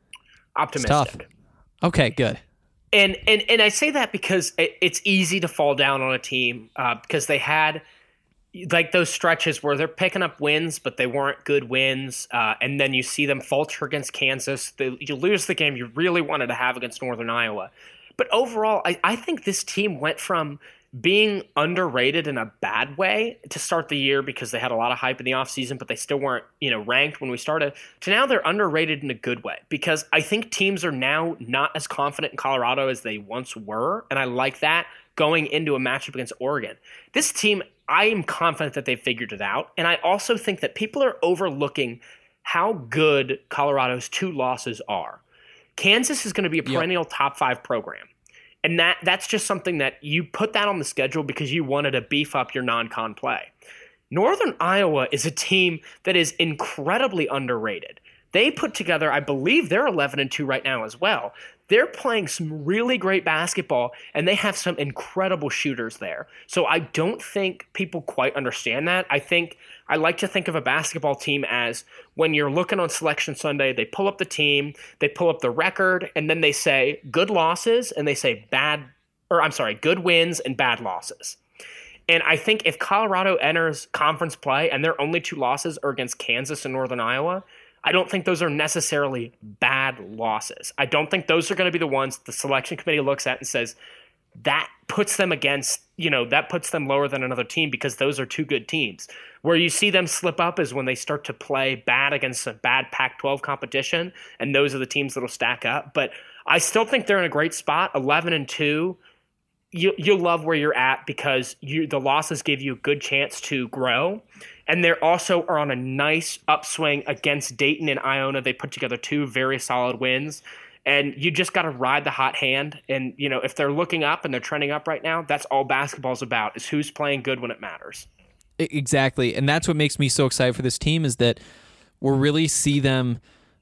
Optimistic.
Okay, good.
And and and I say that because it, it's easy to fall down on a team uh, because they had like those stretches where they're picking up wins, but they weren't good wins. Uh, and then you see them falter against Kansas. They, you lose the game you really wanted to have against Northern Iowa. But overall, I, I think this team went from being underrated in a bad way to start the year because they had a lot of hype in the offseason, but they still weren't, you know, ranked when we started, to now they're underrated in a good way because I think teams are now not as confident in Colorado as they once were. And I like that going into a matchup against Oregon. This team, I am confident that they've figured it out. And I also think that people are overlooking how good Colorado's two losses are. Kansas is going to be a perennial yep. top five program. And that that's just something that you put that on the schedule because you wanted to beef up your non-con play. Northern Iowa is a team that is incredibly underrated. They put together, I believe they're eleven and two right now as well. They're playing some really great basketball, and they have some incredible shooters there. So I don't think people quite understand that. I think I like to think of a basketball team as when you're looking on Selection Sunday, they pull up the team, they pull up the record, and then they say good losses, and they say bad, or I'm sorry, good wins and bad losses. And I think if Colorado enters conference play and their only two losses are against Kansas and Northern Iowa, I don't think those are necessarily bad losses. I don't think those are going to be the ones the selection committee looks at and says, that puts them against, you know, that puts them lower than another team because those are two good teams. Where you see them slip up is when they start to play bad against a bad Pac twelve competition, and those are the teams that will stack up. But I still think they're in a great spot, eleven and two. You, you'll love where you're at because you, the losses give you a good chance to grow. And they also are on a nice upswing against Dayton and Iona. They put together two very solid wins. And you just got to ride the hot hand. And, you know, if they're looking up and they're trending up right now, that's all basketball's about, is who's playing good when it matters.
Exactly. And that's what makes me so excited for this team is that we're really see them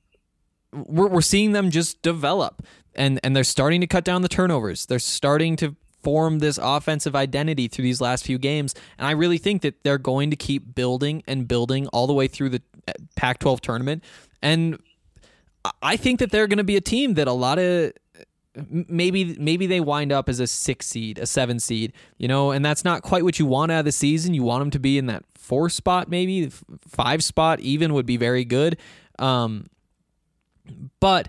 we're, we're seeing them just develop. And, and they're starting to cut down the turnovers. They're starting to form this offensive identity through these last few games. And I really think that they're going to keep building and building all the way through the Pac twelve tournament. And I think that they're going to be a team that a lot of maybe maybe they wind up as a six seed, a seven seed, you know, and that's not quite what you want out of the season. You want them to be in that four spot, maybe five spot even would be very good. Um, but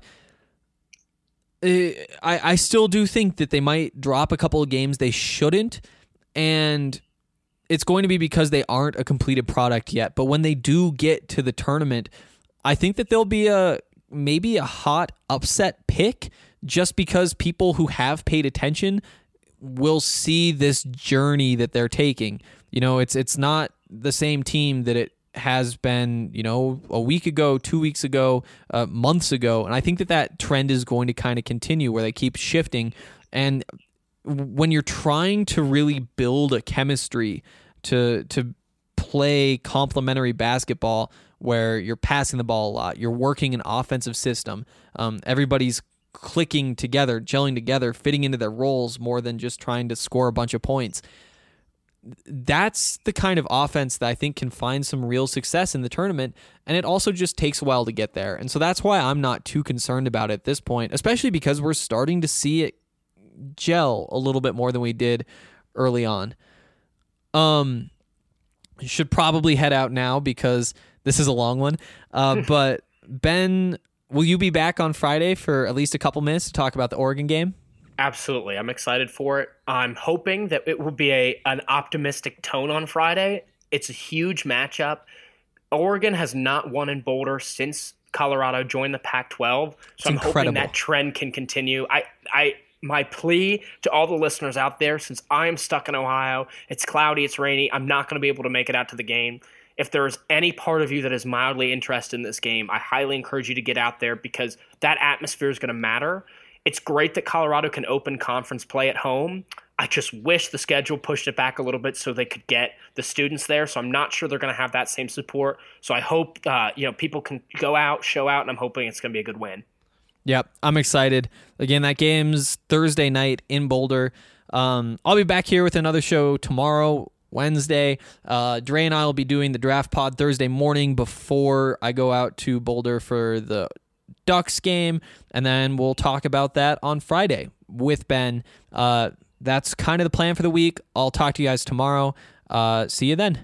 I, I still do think that they might drop a couple of games they shouldn't, and it's going to be because they aren't a completed product yet. But when they do get to the tournament, I think that they'll be a maybe a hot upset pick just because people who have paid attention will see this journey that they're taking. You know, it's it's not the same team that it has been, you know, a week ago, two weeks ago, uh, months ago. And I think that that trend is going to kind of continue where they keep shifting. And when you're trying to really build a chemistry to to play complementary basketball where you're passing the ball a lot, you're working an offensive system, um, everybody's clicking together, gelling together, fitting into their roles more than just trying to score a bunch of points. That's the kind of offense that I think can find some real success in the tournament, and it also just takes a while to get there. And so that's why I'm not too concerned about it at this point, especially because we're starting to see it gel a little bit more than we did early on. Um, should probably head out now because this is a long one. Uh, but Ben, will you be back on Friday for at least a couple minutes to talk about the Oregon game?
Absolutely. I'm excited for it. I'm hoping that it will be a an optimistic tone on Friday. It's a huge matchup. Oregon has not won in Boulder since Colorado joined the Pac twelve, so
It's
I'm
incredible.
hoping that trend can continue. I, I, my plea to all the listeners out there, since I am stuck in Ohio, it's cloudy, it's rainy, I'm not going to be able to make it out to the game. If there is any part of you that is mildly interested in this game, I highly encourage you to get out there because that atmosphere is going to matter. It's great that Colorado can open conference play at home. I just wish the schedule pushed it back a little bit so they could get the students there. So I'm not sure they're going to have that same support. So I hope uh, you know people can go out, show out, and I'm hoping it's going to be a good win.
Yep, I'm excited. Again, that game's Thursday night in Boulder. Um, I'll be back here with another show tomorrow, Wednesday. Uh, Dre and I will be doing the draft pod Thursday morning before I go out to Boulder for the Ducks game, and then we'll talk about that on Friday with Ben. Uh, that's kind of the plan for the week. I'll talk to you guys tomorrow. Uh, see you then.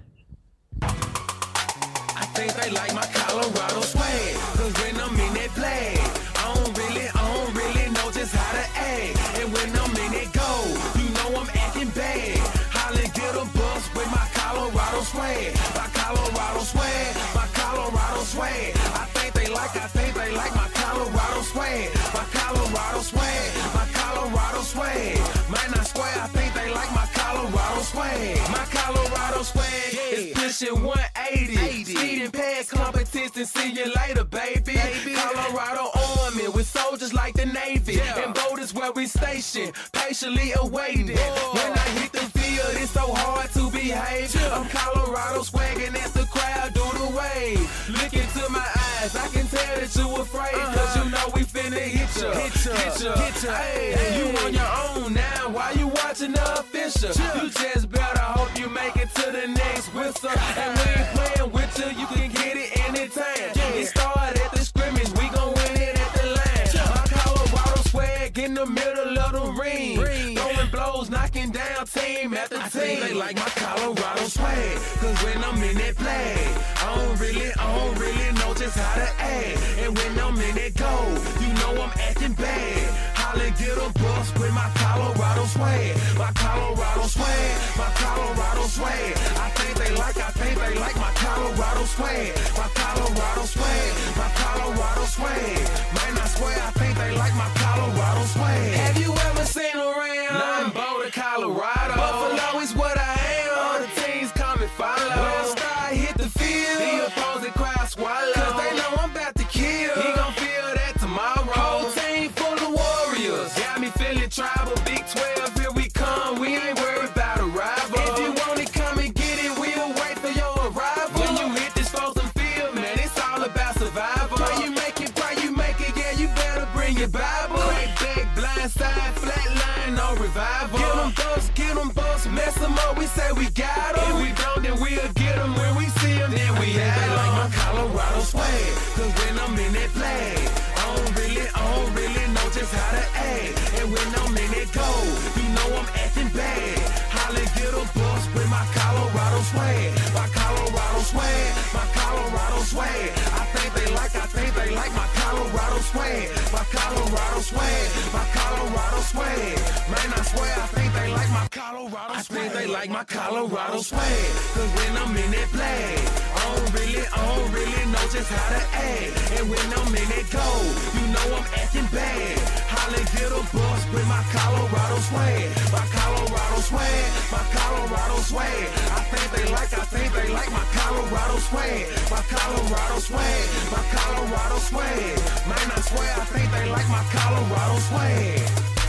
I think they like my Colorado swag, cause when I'm in that play, I don't really, I don't really know just how to act. And when I'm in that go, you know I'm acting bad. Holly get a bus with my Colorado swag, my Colorado swag, my Colorado swag. I think they like, I think they like my Colorado swag, my Colorado swag, my Colorado swag. Might not swear, I think they like my Colorado swag, my Colorado swag is pushing one eighty. Speeding past competition, see you later, baby. Colorado Army with soldiers like the Navy, and Boulder's where we station, patiently awaiting. When I hit the field, it's so hard to behave. I'm Colorado swagging as the crowd do the wave. Look into my eyes, I can tell that you afraid, cause you know we finna hit ya, hit ya, hit ya, hit ya. Hey, you on your own now, why you watching the official? You just better hope you make it to the next whistle. And we ain't playing with you, you can get it anytime. It started at the scrimmage, we gon' win it at the line. My Colorado swag in the middle of the ring, throwing blows, knocking down team after team. I think they like my Colorado swag, cause when I'm in that play, I don't really, I don't really know just how to act. And when I'm in that go, you know I'm acting bad. Holly get a bus with my Colorado swag, my Colorado swag, my Colorado swag. I think they like, I think they like my Colorado swag, my Colorado swag, my Colorado swag. Might not swear, I think they like my Colorado swag. Have you ever seen around? Nah, I'm Boulder, Colorado. Buffalo is what I am. All the teams come and follow. When I start hit the field, the opposing crowd swallow, cause they know I'm about to kill. He gon' feel that tomorrow. Whole team full of warriors, got me feeling tribal. Big twelve, here we come. We ain't worried about a rival. If you want it, come and get it. We'll wait for your arrival. When you hit this frozen field, man, it's all about survival. Pray you make it, pray you make it. Yeah, you better bring your Bible. Crack back, blind side, flat line, no revival. Get them bucks, get them bucks, mess them up. We say we got them. If we don't, then we'll get them. When we see them, then we have them. They like my Colorado swag, cause when I'm in that flag, I don't really, I don't really know just how to act. And when I'm in that go, you know I'm acting bad. Holly get a bus with my Colorado swag, my Colorado swag, my Colorado swag. I think they like, I think they like my Colorado swag, my Colorado swag, my Colorado swag. Man, I swear, I think they like my Colorado swag. I think they like my Colorado swag, cause when I'm in that flag, I don't really, I don't really know just how to act. And when I'm in that go, you know I'm acting bad. Holly get a bus with my Colorado swag, my Colorado swag, my Colorado swag. I think they like, I think they like my Colorado swag, my Colorado swag, my Colorado swag. Man, I swear, I think they like my Colorado swag.